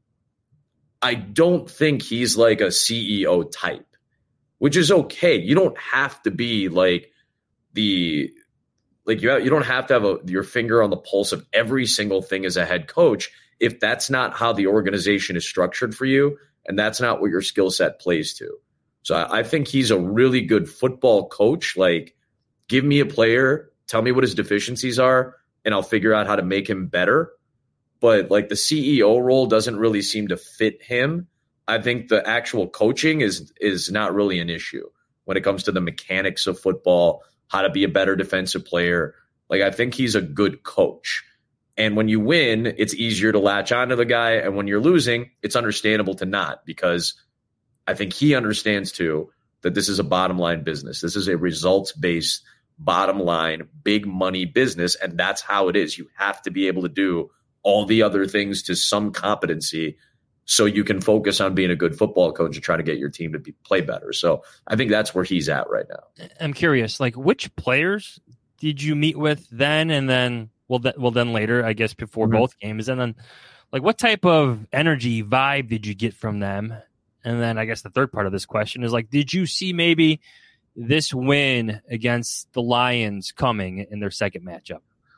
I don't think he's like a CEO type, which is okay. You don't have to be like you don't have to have your finger on the pulse of every single thing as a head coach if that's not how the organization is structured for you. And that's not what your skill set plays to. So I think he's a really good football coach. Like, give me a player, tell me what his deficiencies are, and I'll figure out how to make him better. But like the CEO role doesn't really seem to fit him. I think the actual coaching is not really an issue when it comes to the mechanics of football, how to be a better defensive player. Like, I think he's a good coach. And when you win, it's easier to latch onto the guy. And when you're losing, it's understandable to not, because I think he understands too that this is a bottom line business. This is a results based bottom line, big money business. And that's how it is. You have to be able to do all the other things to some competency so you can focus on being a good football coach and trying to get your team to play better. So I think that's where he's at right now. I'm curious, like, which players did you meet with then and then? Well, then later, I guess, before both games. And then, like, what type of energy, vibe did you get from them? And then I guess the third part of this question is, like, did you see maybe this win against the Lions coming in their second matchup?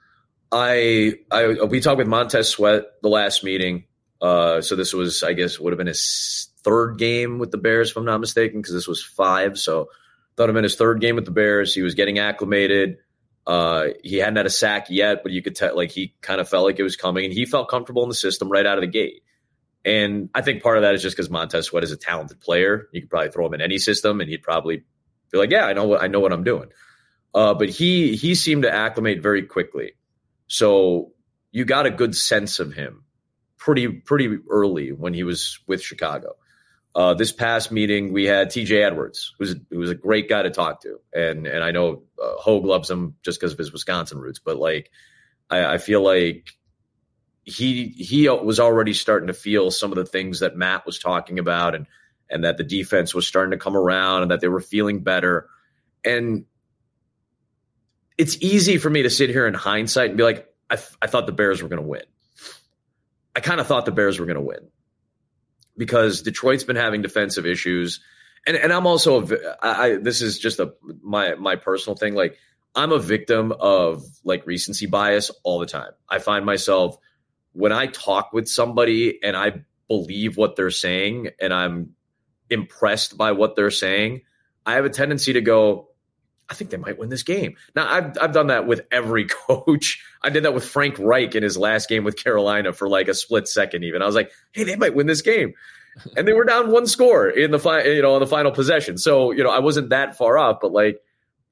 We talked with Montez Sweat the last meeting. So this was, I guess, would have been his third game with the Bears, if I'm not mistaken, because this was 5. So thought it would have been his third game with the Bears. He was getting acclimated. He hadn't had a sack yet, but you could tell, like, he kind of felt like it was coming, and he felt comfortable in the system right out of the gate. And I think part of that is just because Montez Sweat is a talented player. You could probably throw him in any system, and he'd probably be like, yeah, I know what I'm doing. But he seemed to acclimate very quickly. So you got a good sense of him pretty early when he was with Chicago. This past meeting, we had TJ Edwards, who was a great guy to talk to. And I know Hogue loves him just because of his Wisconsin roots. But, like, I feel like he was already starting to feel some of the things that Matt was talking about, and that the defense was starting to come around and that they were feeling better. And it's easy for me to sit here in hindsight and be like, I thought the Bears were going to win. I kind of thought the Bears were going to win, because Detroit's been having defensive issues. And I'm also, this is just my personal thing. Like, I'm a victim of, like, recency bias all the time. I find myself, when I talk with somebody and I believe what they're saying and I'm impressed by what they're saying, I have a tendency to go, I think they might win this game. Now, I've done that with every coach. I did that with Frank Reich in his last game with Carolina for like a split second even. I was like, hey, they might win this game. And they were down 1 score in the final possession. So, I wasn't that far off, but, like,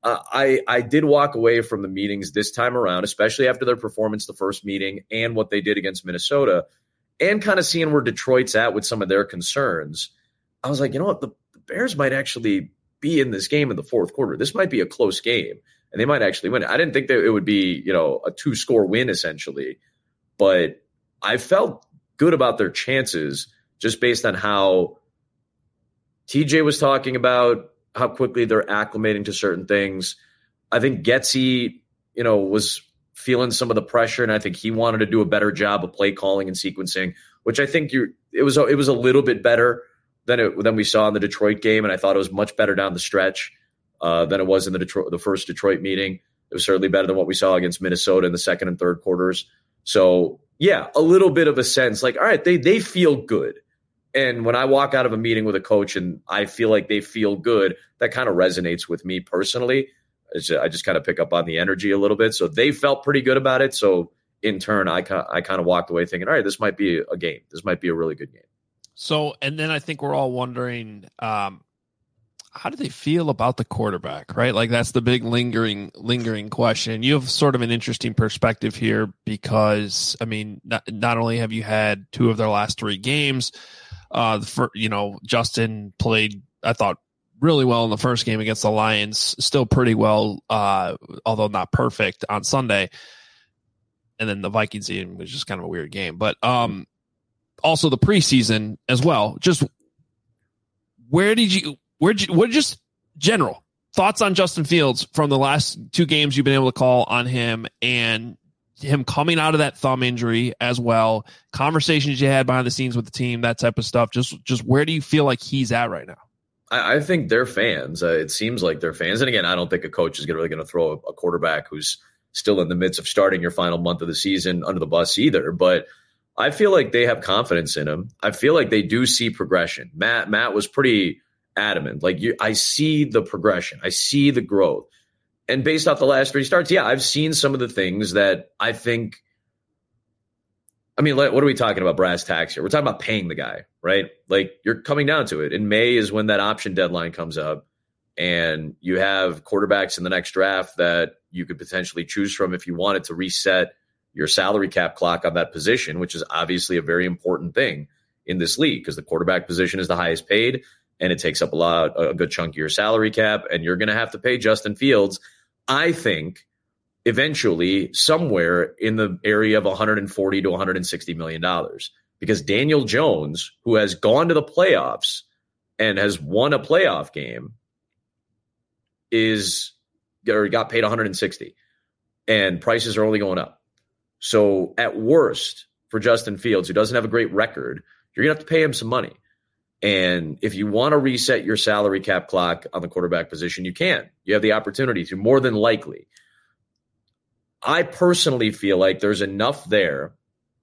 I did walk away from the meetings this time around, especially after their performance the first meeting and what they did against Minnesota, and kind of seeing where Detroit's at with some of their concerns. I was like, you know what? The Bears might actually be in this game in the fourth quarter. This might be a close game, and they might actually win it. I didn't think that it would be, a 2-score win, essentially. But I felt good about their chances just based on how TJ was talking about how quickly they're acclimating to certain things. I think Getsy, was feeling some of the pressure, and I think he wanted to do a better job of play calling and sequencing, which I think it was a little bit better than we saw in the Detroit game, and I thought it was much better down the stretch than it was in the first Detroit meeting. It was certainly better than what we saw against Minnesota in the second and third quarters. So, yeah, a little bit of a sense like, all right, they feel good. And when I walk out of a meeting with a coach and I feel like they feel good, that kind of resonates with me personally. I just kind of pick up on the energy a little bit. So they felt pretty good about it. So in turn, I kind of walked away thinking, all right, this might be a game. This might be a really good game. So, and then I think we're all wondering, how do they feel about the quarterback, right? Like that's the big lingering question. You have sort of an interesting perspective here because, I mean, not only have you had 2 of their last 3 games, Justin played, I thought, really well in the first game against the Lions, still pretty well, although not perfect on Sunday. And then the Vikings game was just kind of a weird game. But also the preseason as well. Just what just general thoughts on Justin Fields from the last 2 games you've been able to call on him and him coming out of that thumb injury as well, conversations you had behind the scenes with the team, that type of stuff. Just where do you feel like he's at right now? I think they're fans. It seems like they're fans. And again, I don't think a coach is really going to throw a quarterback who's still in the midst of starting your final month of the season under the bus either. But I feel like they have confidence in him. I feel like they do see progression. Matt was pretty adamant. I see the progression. I see the growth. And based off the last 3 starts, yeah, I've seen some of the things that I think. I mean, what are we talking about brass tacks here? We're talking about paying the guy, right? Like you're coming down to it. In May is when that option deadline comes up, and you have quarterbacks in the next draft that you could potentially choose from if you wanted to reset your salary cap clock on that position, which is obviously a very important thing in this league because the quarterback position is the highest paid and it takes up a good chunk of your salary cap, and you're going to have to pay Justin Fields, I think, eventually somewhere in the area of $140 to $160 million, because Daniel Jones, who has gone to the playoffs and has won a playoff game, got paid $160, and prices are only going up. So at worst for Justin Fields, who doesn't have a great record, you're going to have to pay him some money. And if you want to reset your salary cap clock on the quarterback position, you can. You have the opportunity to, more than likely. I personally feel like there's enough there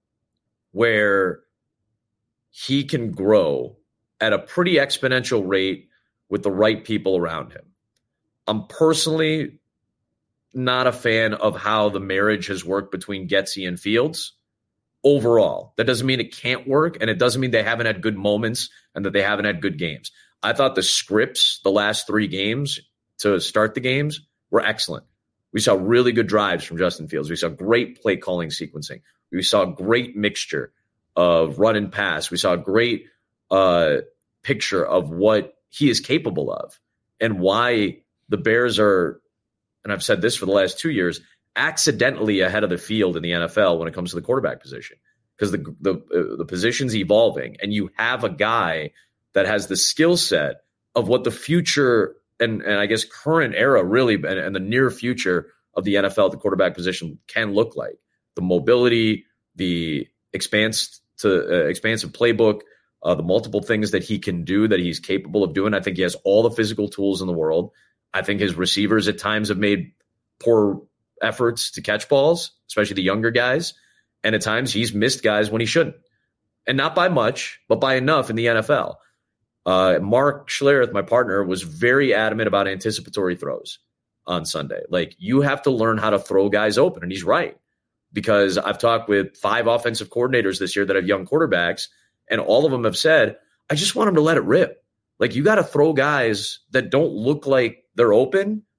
where he can grow at a pretty exponential rate with the right people around him. I'm personally not a fan of how the marriage has worked between Getsy and Fields overall. That doesn't mean it can't work, and it doesn't mean they haven't had good moments and that they haven't had good games. I thought the scripts, the last 3 games to start the games, were excellent. We saw really good drives from Justin Fields. We saw great play calling sequencing. We saw a great mixture of run and pass. We saw a great picture of what he is capable of and why the Bears are, and I've said this for the last 2 years, accidentally ahead of the field in the NFL when it comes to the quarterback position, because the position's evolving, and you have a guy that has the skill set of what the future and I guess current era really and the near future of the NFL, the quarterback position can look like. The mobility, the expansive playbook, the multiple things that he can do, that he's capable of doing. I think he has all the physical tools in the world. I think his receivers at times have made poor efforts to catch balls, especially the younger guys. And at times he's missed guys when he shouldn't. And not by much, but by enough in the NFL. Mark Schlereth, my partner, was very adamant about anticipatory throws on Sunday. Like, you have to learn how to throw guys open. And he's right, because I've talked with 5 offensive coordinators this year that have young quarterbacks, and all of them have said, I just want them to let it rip. Like, you got to throw guys that don't look like they're open.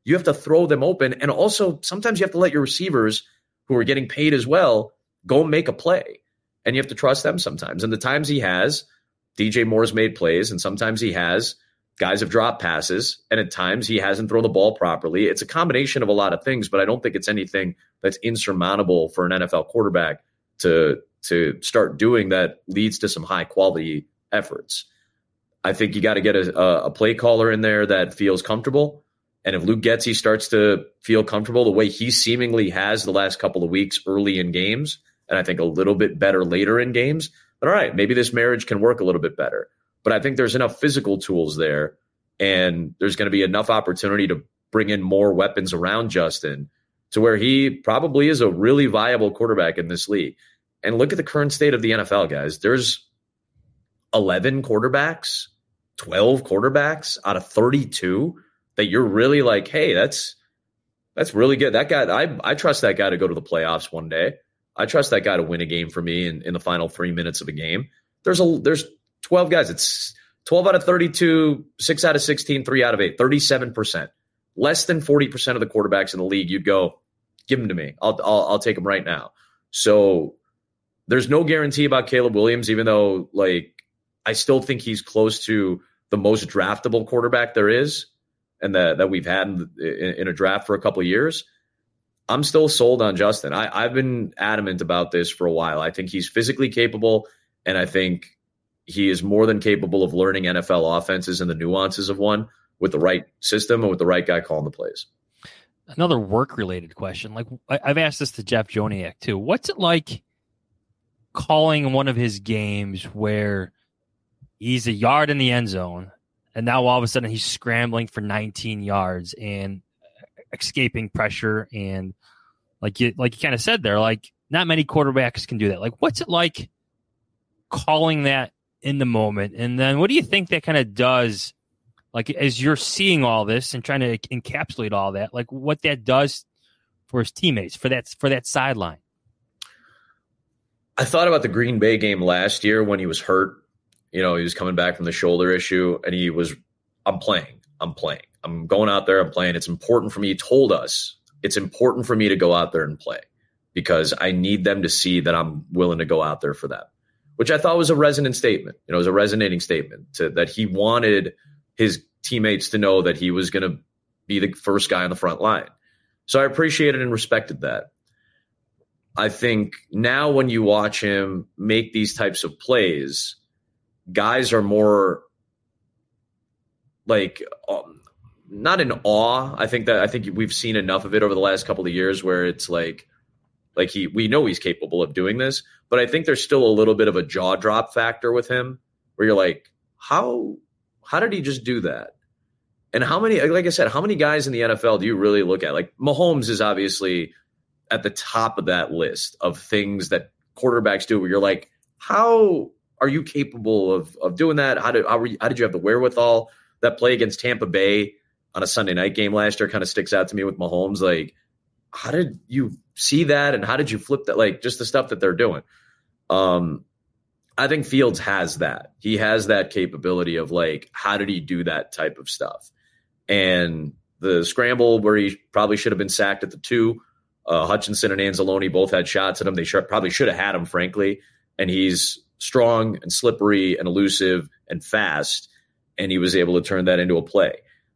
you have to throw them open. And also sometimes you have to let your receivers who are getting paid as well go make a play. And you have to trust them sometimes. And the times he has, DJ Moore's made plays, and sometimes he has, guys have dropped passes, and at times he hasn't thrown the ball properly. It's a combination of a lot of things, but I don't think it's anything that's insurmountable for an NFL quarterback to start doing that leads to some high quality efforts. I think you got to get a play caller in there that feels comfortable. And if Luke Getsy starts to feel comfortable the way he seemingly has the last couple of weeks early in games, and I think a little bit better later in games, then all right, maybe this marriage can work a little bit better. But I think there's enough physical tools there, and there's going to be enough opportunity to bring in more weapons around Justin to where he probably is a really viable quarterback in this league. And look at the current state of the NFL, guys. There's 11 quarterbacks, 12 quarterbacks out of 32 that you're really like, hey, that's really good. That guy, I trust that guy to go to the playoffs one day. I trust that guy to win a game for me in the final 3 minutes of a game. There's 12 guys. It's 12 out of 32, 6 out of 16, 3 out of 8, 37%. Less than 40% of the quarterbacks in the league, you'd go, give them to me. I'll take them right now. So there's no guarantee about Caleb Williams, even though I still think he's close to the most draftable quarterback there is, and that we've had in a draft for a couple of years. I'm still sold on Justin. I've been adamant about this for a while. I think he's physically capable, and I think he is more than capable of learning NFL offenses and the nuances of one with the right system and with the right guy calling the plays. Another work-related question. I've asked this to Jeff Joniak too. What's it like calling one of his games where he's a yard in the end zone, and now all of a sudden he's scrambling for 19 yards and escaping pressure, and like you kind of said there, not many quarterbacks can do that. What's it like calling that in the moment? And then what do you think that kind of does, as you're seeing all this and trying to encapsulate all that, what that does for his teammates, for that sideline? I thought about the Green Bay game last year when he was hurt. He was coming back from the shoulder issue, and I'm playing. I'm going out there, I'm playing. It's important for me. He told us it's important for me to go out there and play because I need them to see that I'm willing to go out there for them, which I thought was a resonant statement. It was a resonating statement that he wanted his teammates to know that he was going to be the first guy on the front line. So I appreciated and respected that. I think now when you watch him make these types of plays, guys are more not in awe. I think we've seen enough of it over the last couple of years where it's we know he's capable of doing this, but I think there's still a little bit of a jaw drop factor with him where you're like, how did he just do that? And how many, like I said, how many guys in the NFL do you really look at? Mahomes is obviously at the top of that list of things that quarterbacks do where you're like, how are you capable of doing that? How did you have the wherewithal? That play against Tampa Bay on a Sunday night game last year kind of sticks out to me with Mahomes. How did you see that? And how did you flip that? Just the stuff that they're doing. I think Fields has that. He has that capability of how did he do that type of stuff? And the scramble where he probably should have been sacked at the 2, Hutchinson and Anzalone both had shots at him. They probably should have had him, frankly. And he's strong and slippery and elusive and fast. And he was able to turn that into a play.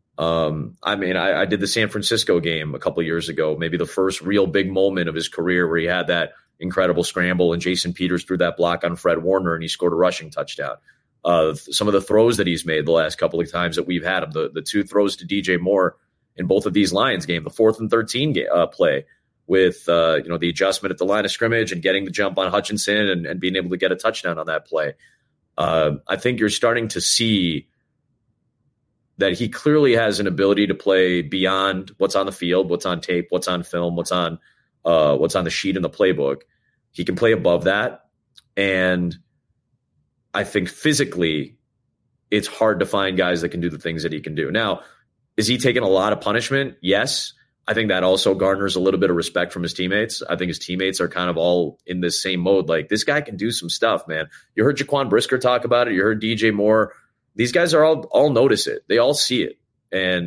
I did the San Francisco game a couple of years ago, maybe the first real big moment of his career where he had that incredible scramble and Jason Peters threw that block on Fred Warner and he scored a rushing touchdown. Some of the throws that he's made the last couple of times that we've had him, the 2 throws to DJ Moore in both of these Lions games, the 4th and 13 play with the adjustment at the line of scrimmage and getting the jump on Hutchinson and being able to get a touchdown on that play. I think you're starting to see that he clearly has an ability to play beyond what's on the field, what's on tape, what's on film, what's on the sheet in the playbook. He can play above that. And I think physically it's hard to find guys that can do the things that he can do. Now, is he taking a lot of punishment? Yes. I think that also garners a little bit of respect from his teammates. I think his teammates are kind of all in this same mode. This guy can do some stuff, man. You heard Jaquan Brisker talk about it. You heard DJ Moore. These guys are all notice it. They all see it. And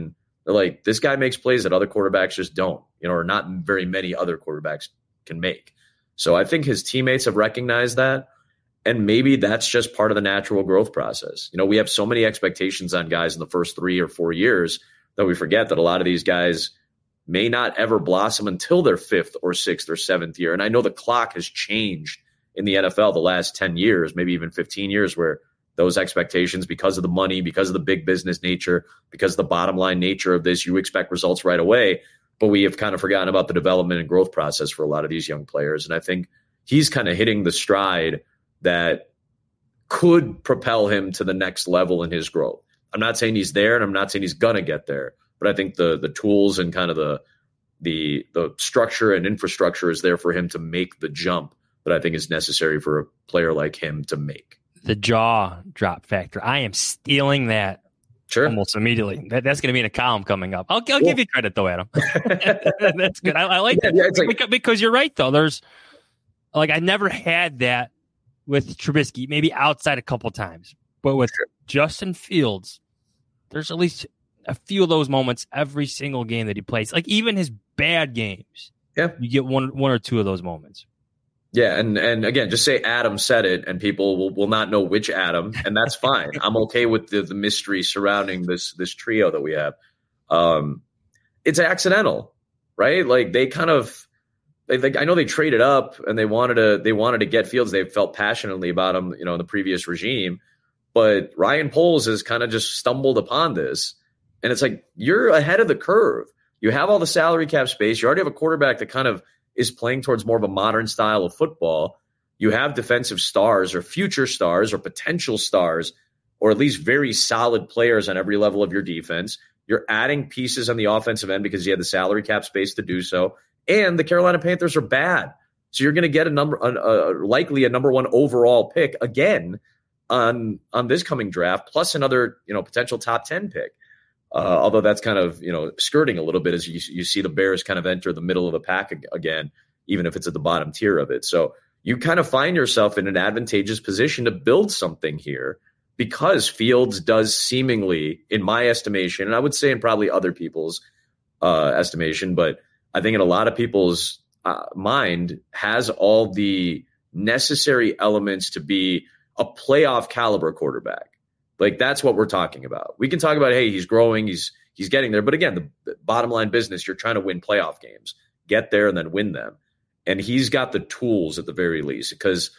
They're like, this guy makes plays that other quarterbacks just don't, or not very many other quarterbacks can make. So I think his teammates have recognized that. And maybe that's just part of the natural growth process. We have so many expectations on guys in the first 3 or 4 years that we forget that a lot of these guys may not ever blossom until their 5th or 6th or 7th year. And I know the clock has changed in the NFL the last 10 years, maybe even 15 years, where those expectations, because of the money, because of the big business nature, because of the bottom line nature of this, you expect results right away. But we have kind of forgotten about the development and growth process for a lot of these young players. And I think he's kind of hitting the stride that could propel him to the next level in his growth. I'm not saying he's there, and I'm not saying he's going to get there, but I think the tools and kind of the structure and infrastructure is there for him to make the jump that I think is necessary for a player like him to make. The jaw drop factor. I am stealing that almost immediately. That's going to be in a column coming up. I'll give you credit, though, Adam. That's good. I like that. Yeah, because you're right, though. There's I never had that with Trubisky, maybe outside a couple times. But with Justin Fields, there's at least a few of those moments every single game that he plays. Even his bad games, you get one or two of those moments. Yeah, and again, just say Adam said it, and people will not know which Adam, and that's fine. I'm okay with the mystery surrounding this trio that we have. It's accidental, right? They kind of, I know they traded up and they wanted to get Fields. They felt passionately about him, in the previous regime. But Ryan Poles has kind of just stumbled upon this, and it's you're ahead of the curve. You have all the salary cap space. You already have a quarterback that kind of is playing towards more of a modern style of football. You have defensive stars or future stars or potential stars, or at least very solid players on every level of your defense. You're adding pieces on the offensive end because you have the salary cap space to do so. And the Carolina Panthers are bad. So you're going to get likely a number 1 overall pick again on this coming draft, plus another, potential top 10 pick. Although that's kind of, skirting a little bit as you see the Bears kind of enter the middle of the pack again, even if it's at the bottom tier of it. So you kind of find yourself in an advantageous position to build something here because Fields does seemingly, in my estimation, and I would say in probably other people's estimation, but I think in a lot of people's mind, has all the necessary elements to be a playoff caliber quarterback. That's what we're talking about. We can talk about, hey, he's growing, he's getting there. But again, the bottom line business, you're trying to win playoff games, get there and then win them. And he's got the tools at the very least, because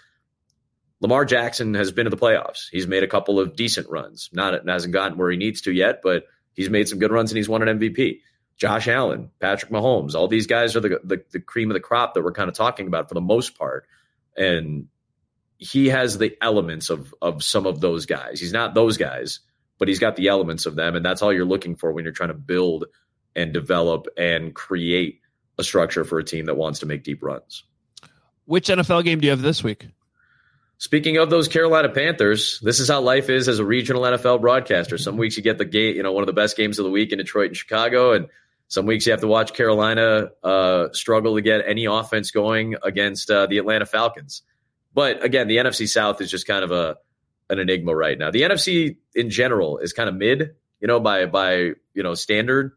Lamar Jackson has been to the playoffs. He's made a couple of decent runs. Hasn't gotten where he needs to yet, but he's made some good runs and he's won an MVP. Josh Allen, Patrick Mahomes, all these guys are the cream of the crop that we're kind of talking about for the most part. And he has the elements of some of those guys. He's not those guys, but he's got the elements of them. And that's all you're looking for when you're trying to build and develop and create a structure for a team that wants to make deep runs. Which NFL game do you have this week? Speaking of those Carolina Panthers, this is how life is as a regional NFL broadcaster. Some weeks you get the game, one of the best games of the week in Detroit and Chicago. And some weeks you have to watch Carolina struggle to get any offense going against the Atlanta Falcons. But again, the NFC South is just kind of an enigma right now. The NFC in general is kind of mid, by standard.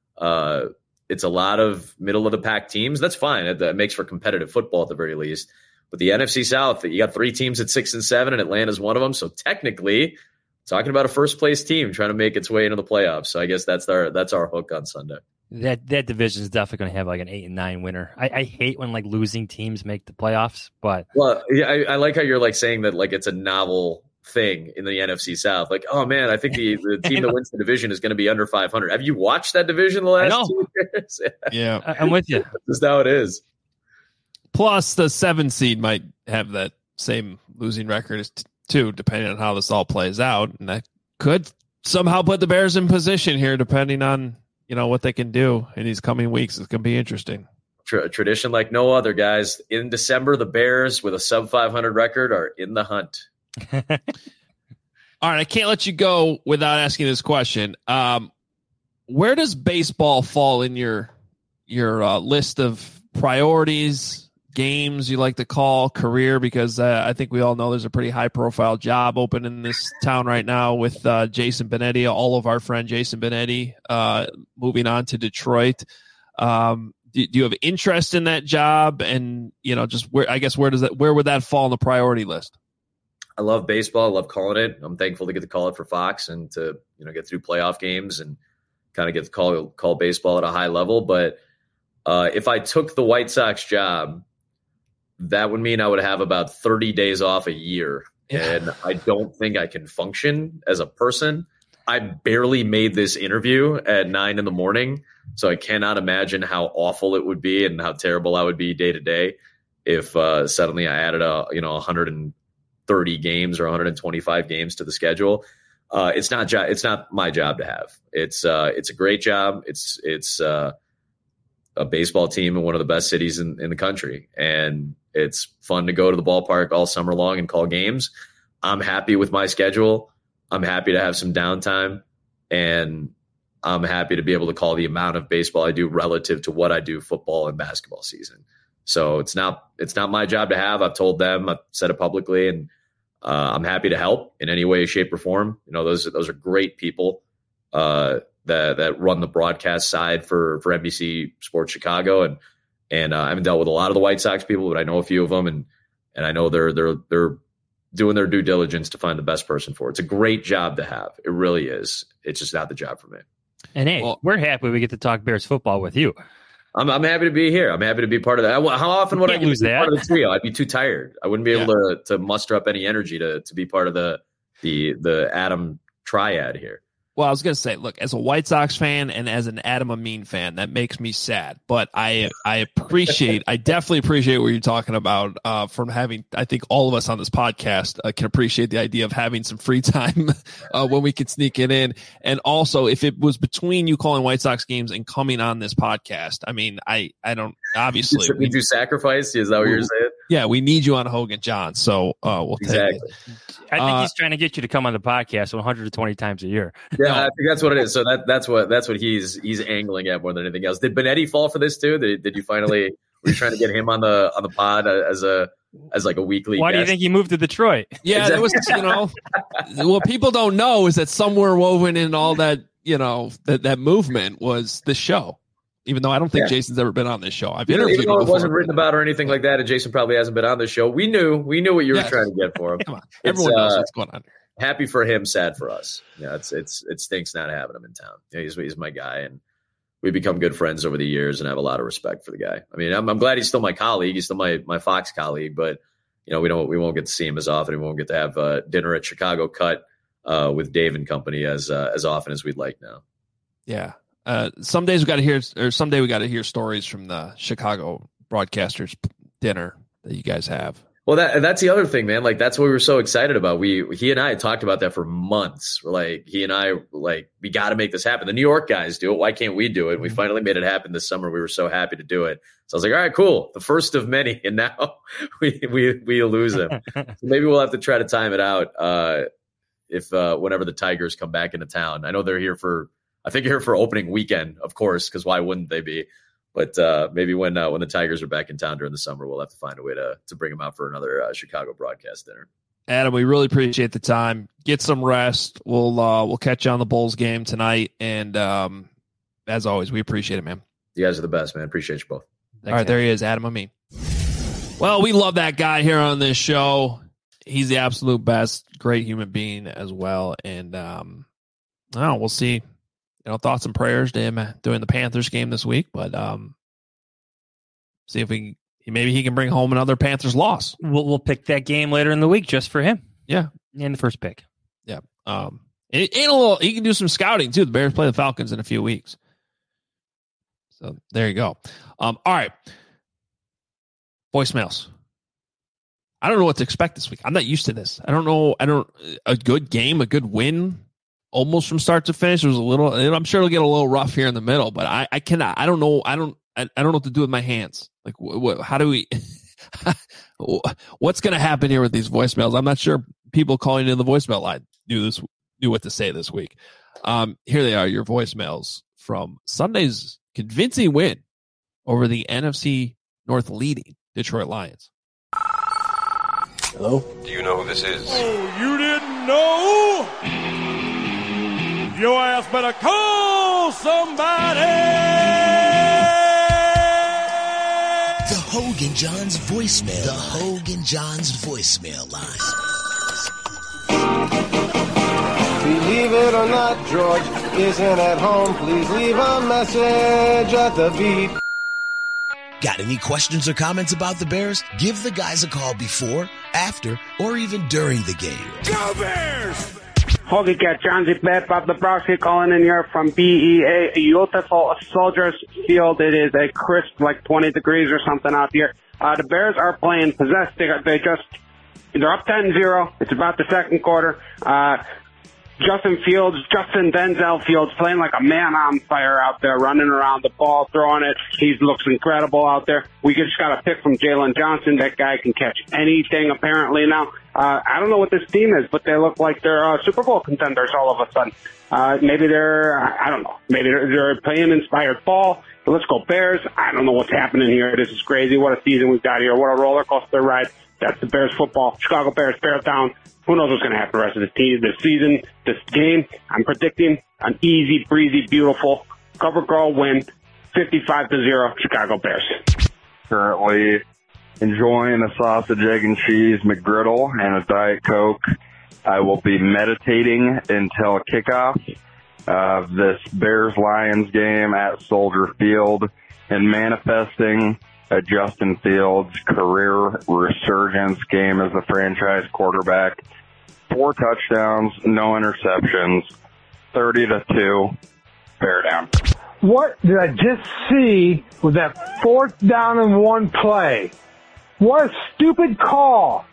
It's a lot of middle of the pack teams. That's fine. That makes for competitive football at the very least. But the NFC South, you got 3 teams at 6 and 7, and Atlanta's one of them. So technically, talking about a first place team trying to make its way into the playoffs. So I guess that's our hook on Sunday. That division is definitely going to have an 8 and 9 winner. I hate when losing teams make the playoffs, but yeah, I like how you're saying that it's a novel thing in the NFC South. Oh man, I think the team that wins the division is going to be under 500. Have you watched that division the last 2 years? Yeah, I'm with you. That's how it is. Plus, the 7 seed might have that same losing record as too, depending on how this all plays out, and that could somehow put the Bears in position here, depending on what they can do in these coming weeks. It's going to be interesting. Tradition like no other, guys. In December, the Bears with a sub 500 record are in the hunt. All right, I can't let you go without asking this question. Where does baseball fall in your list of priorities games you like to call career? Because I think we all know there's a pretty high-profile job open in this town right now with Jason Benetti, all of our friend Jason Benetti, moving on to Detroit. Do you have interest in that job? And, just where would that fall on the priority list? I love baseball. I love calling it. I'm thankful to get to call it for Fox and to, get through playoff games and kind of get to call baseball at a high level. But if I took the White Sox job, that would mean I would have about 30 days off a year. Yeah. And I don't think I can function as a person. I barely made this interview at 9 a.m, so I cannot imagine how awful it would be and how terrible I would be day to day if suddenly I added 130 games or 125 games to the schedule. It's not my job to have. It's a great job. It's a baseball team in one of the best cities in the country, and it's fun to go to the ballpark all summer long and call games. I'm happy with my schedule. I'm happy to have some downtime, and I'm happy to be able to call the amount of baseball I do relative to what I do football and basketball season. So it's not my job to have. I've told them, I've said it publicly, and I'm happy to help in any way, shape, or form. Those are great people that run the broadcast side for NBC Sports Chicago, and I haven't dealt with a lot of the White Sox people, but I know a few of them, and I know they're doing their due diligence to find the best person for it. It's a great job to have. It really is. It's just not the job for me. And hey, we're happy we get to talk Bears football with you. I'm happy to be here. I'm happy to be part of that. How often would I lose that? Part of the trio? I'd be too tired. I wouldn't be able to muster up any energy to be part of the Adam triad here. Well, I was going to say, look, as a White Sox fan and as an Adam Amin fan, that makes me sad. But I definitely appreciate what you're talking about from having, I think all of us on this podcast can appreciate the idea of having some free time when we can sneak it in. And also, if it was between you calling White Sox games and coming on this podcast, I mean, I don't, obviously. Did you sacrifice? Is that what you're saying? Yeah, we need you on Hogan John. So we'll take it. I think he's trying to get you to come on the podcast 120 times a year. Yeah, I think that's what it is. So that's what he's angling at more than anything else. Did Benetti fall for this too? Did you finally were you trying to get him on the pod as like a weekly? Why guest? do you think he moved to Detroit? Yeah, exactly. That was what people don't know is that somewhere woven in all that that movement was the show. Even though I don't think Jason's ever been on this show. I've interviewed even though him it wasn't written about or anything like that, and Jason probably hasn't been on the show. We knew what you were trying to get for him. Come on, everyone knows what's going on. Happy for him, sad for us. Yeah, it stinks not having him in town. He's my guy, and we've become good friends over the years, and I have a lot of respect for the guy. I mean, I'm glad he's still my colleague. He's still my Fox colleague, but we won't get to see him as often. We won't get to have dinner at Chicago Cut with Dave and company as often as we'd like now. Yeah. Some days we got to hear, or someday we got to hear stories from the Chicago broadcasters dinner that you guys have. Well, that's the other thing, man. Like, that's what we were so excited about. He and I had talked about that for months. He and I, we got to make this happen. The New York guys do it. Why can't we do it? We finally made it happen this summer. We were so happy to do it. So I was like, all right, cool. The first of many. And now we lose him. So maybe we'll have to try to time it out if whenever the Tigers come back into town. I know they're here I think you're here for opening weekend, of course, because why wouldn't they be? But maybe when the Tigers are back in town during the summer, we'll have to find a way to bring them out for another Chicago broadcast dinner. Adam, we really appreciate the time. Get some rest. We'll catch you on the Bulls game tonight. And as always, we appreciate it, man. You guys are the best, man. Appreciate you both. Thanks, all right, there he is, Adam Amin. Well, we love that guy here on this show. He's the absolute best. Great human being as well. And we'll see. Thoughts and prayers to him doing the Panthers game this week, but see if maybe he can bring home another Panthers loss. We'll pick that game later in the week just for him. Yeah, in the first pick. Yeah, he can do some scouting too. The Bears play the Falcons in a few weeks, so there you go. All right, voicemails. I don't know what to expect this week. I'm not used to this. I don't know. A good game, a good win. Almost from start to finish. It was a little. I'm sure it'll get a little rough here in the middle, but I cannot. I don't know. I don't know what to do with my hands. Like, how do we? What's going to happen here with these voicemails? I'm not sure. People calling in the voicemail line knew what to say this week. Here they are. Your voicemails from Sunday's convincing win over the NFC North leading Detroit Lions. Hello? Do you know who this is? Oh, you didn't know? Your ass better call somebody! The Hogan Johns voicemail. The Hogan Johns voicemail line. Believe it or not, George isn't at home. Please leave a message at the beep. Got any questions or comments about the Bears? Give the guys a call before, after, or even during the game. Go Bears! Holy cat, John Z. Bob Dabrowski calling in here from BEA, beautiful Soldiers Field. It is a crisp, like 20 degrees or something out here. The Bears are playing possessed. They're up 10-0. It's about the second quarter. Justin Denzel Fields playing like a man on fire out there, running around the ball, throwing it. He looks incredible out there. We just got a pick from Jalen Johnson. That guy can catch anything apparently now. I don't know what this team is, but they look like they're Super Bowl contenders all of a sudden. Maybe I don't know. Maybe they're playing inspired ball. Let's go Bears. I don't know what's happening here. This is crazy. What a season we've got here. What a roller coaster ride. That's the Bears football. Chicago Bears, Bears down. Who knows what's going to happen the rest of this season, this game. I'm predicting an easy, breezy, beautiful cover girl win, 55-0, Chicago Bears. Currently enjoying a sausage, egg, and cheese McGriddle and a Diet Coke. I will be meditating until kickoff of this Bears-Lions game at Soldier Field and manifesting a Justin Fields career resurgence game as the franchise quarterback. 4 touchdowns, no interceptions, 30-2, Bear down. What did I just see with that 4th down and 1 play? What a stupid call.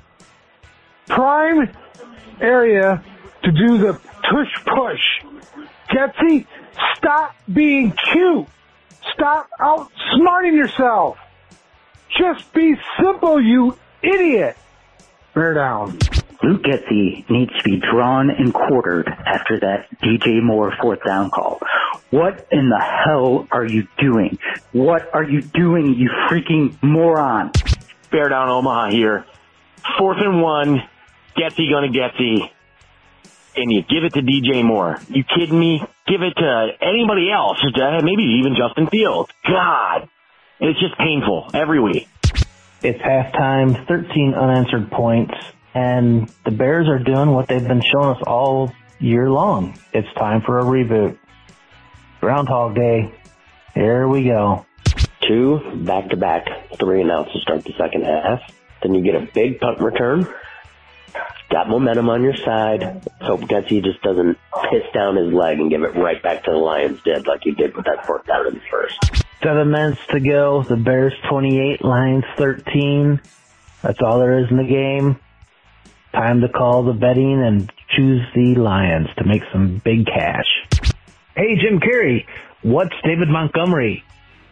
Prime area to do the tush-push. Getsy, stop being cute. Stop outsmarting yourself. Just be simple, you idiot. Bear down. Luke Getsy needs to be drawn and quartered after that DJ Moore 4th down call. What in the hell are you doing? What are you doing, you freaking moron? Bear down Omaha here. 4th and 1. Getsy gonna Getsy. And you give it to DJ Moore. You kidding me? Give it to anybody else. Maybe even Justin Fields. God. It's just painful every week. It's halftime, 13 unanswered points, and the Bears are doing what they've been showing us all year long. It's time for a reboot. Groundhog Day. Here we go. 2 back-to-back 3-and-outs to start the second half. Then you get a big punt return. Got momentum on your side. Let's hope Getsy just doesn't piss down his leg and give it right back to the Lions did like he did with that 4th down in the first. 7 minutes to go. The Bears 28, Lions 13. That's all there is in the game. Time to call the betting and choose the Lions to make some big cash. Hey, Jim Carrey, what's David Montgomery?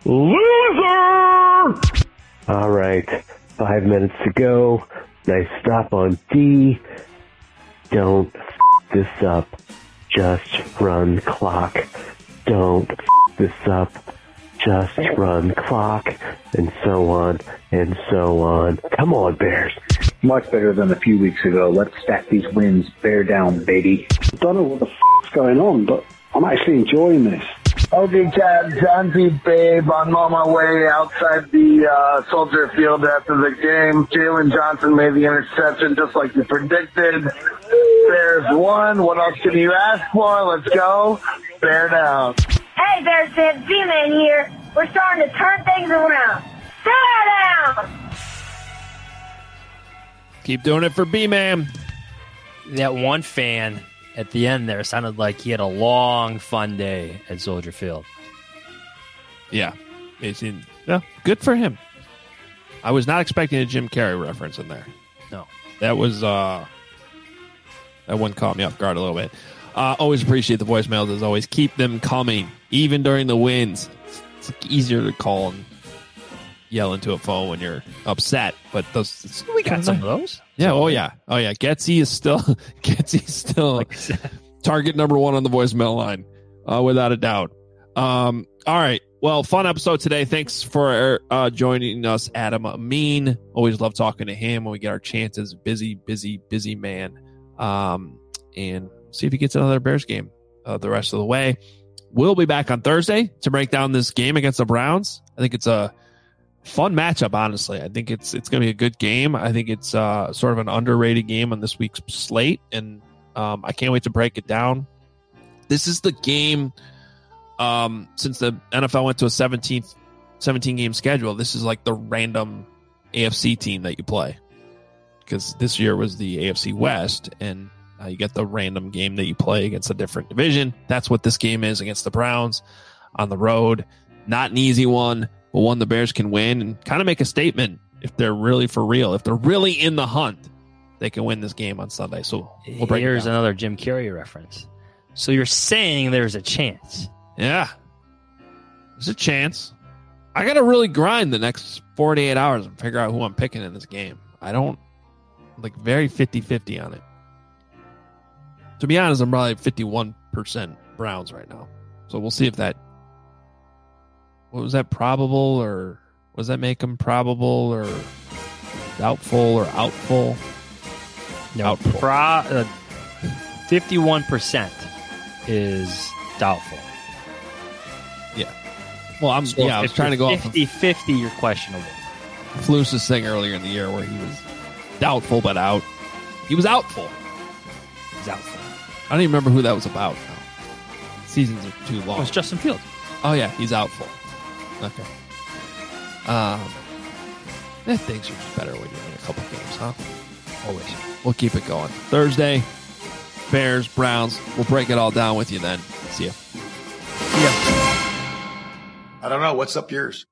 Loser! All right, 5 minutes to go. Nice stop on D. Don't this up. Just run clock. Don't this up. Just run clock. And so on and so on. Come on, Bears. Much better than a few weeks ago. Let's stack these wins. Bear down, baby. I don't know what the is going on, but I'm actually enjoying this. Okay, Chad, John P. Babe, I'm on my way outside the Soldier Field after the game. Jalen Johnson made the interception just like you predicted. Bears won. What else can you ask for? Let's go. Bear down. Hey, Bears fans, B-Man here. We're starting to turn things around. Bear down! Keep doing it for B-Man. That one fan at the end there sounded like he had a long, fun day at Soldier Field. Yeah. Good for him. I was not expecting a Jim Carrey reference in there. No. That was, that one caught me off guard a little bit. Always appreciate the voicemails as always. Keep them coming, even during the wins. It's easier to call and yell into a phone when you're upset, but those we got some of those. Yeah, oh yeah. Getsy is still target number 1 on the voicemail line, without a doubt. All right, Well, fun episode today. Thanks for joining us, Adam Amin. Always love talking to him when we get our chances. Busy man. And see if he gets another Bears game the rest of the way. We'll be back on Thursday to break down this game against the Browns. I think it's a fun matchup, honestly. I think it's going to be a good game. I think it's sort of an underrated game on this week's slate, and I can't wait to break it down. This is the game... since the NFL went to a 17-game schedule, this is like the random AFC team that you play, because this year was the AFC West, and you get the random game that you play against a different division. That's what this game is against the Browns on the road. Not an easy one, but one the Bears can win and kind of make a statement if they're really for real. If they're really in the hunt, they can win this game on Sunday. So we'll break Here's another Jim Carrey reference. So you're saying there's a chance? Yeah, there's a chance. I got to really grind the next 48 hours and figure out who I'm picking in this game. I don't very 50-50 on it. To be honest, I'm probably 51% Browns right now. So we'll see if that, what was that, probable, or was that make them probable or doubtful or outful? No, 51% is doubtful. Yeah. Well, I was trying to go 50-50, you're questionable. Flus's thing earlier in the year where he was doubtful but out. He was outful. He's outful. I don't even remember who that was about now. Seasons are too long. Oh, it's Justin Fields. Oh, yeah, he's outful. Okay. Things are just better when you're in a couple games, huh? Always. We'll keep it going. Thursday, Bears, Browns. We'll break it all down with you then. See ya. I don't know. What's up yours?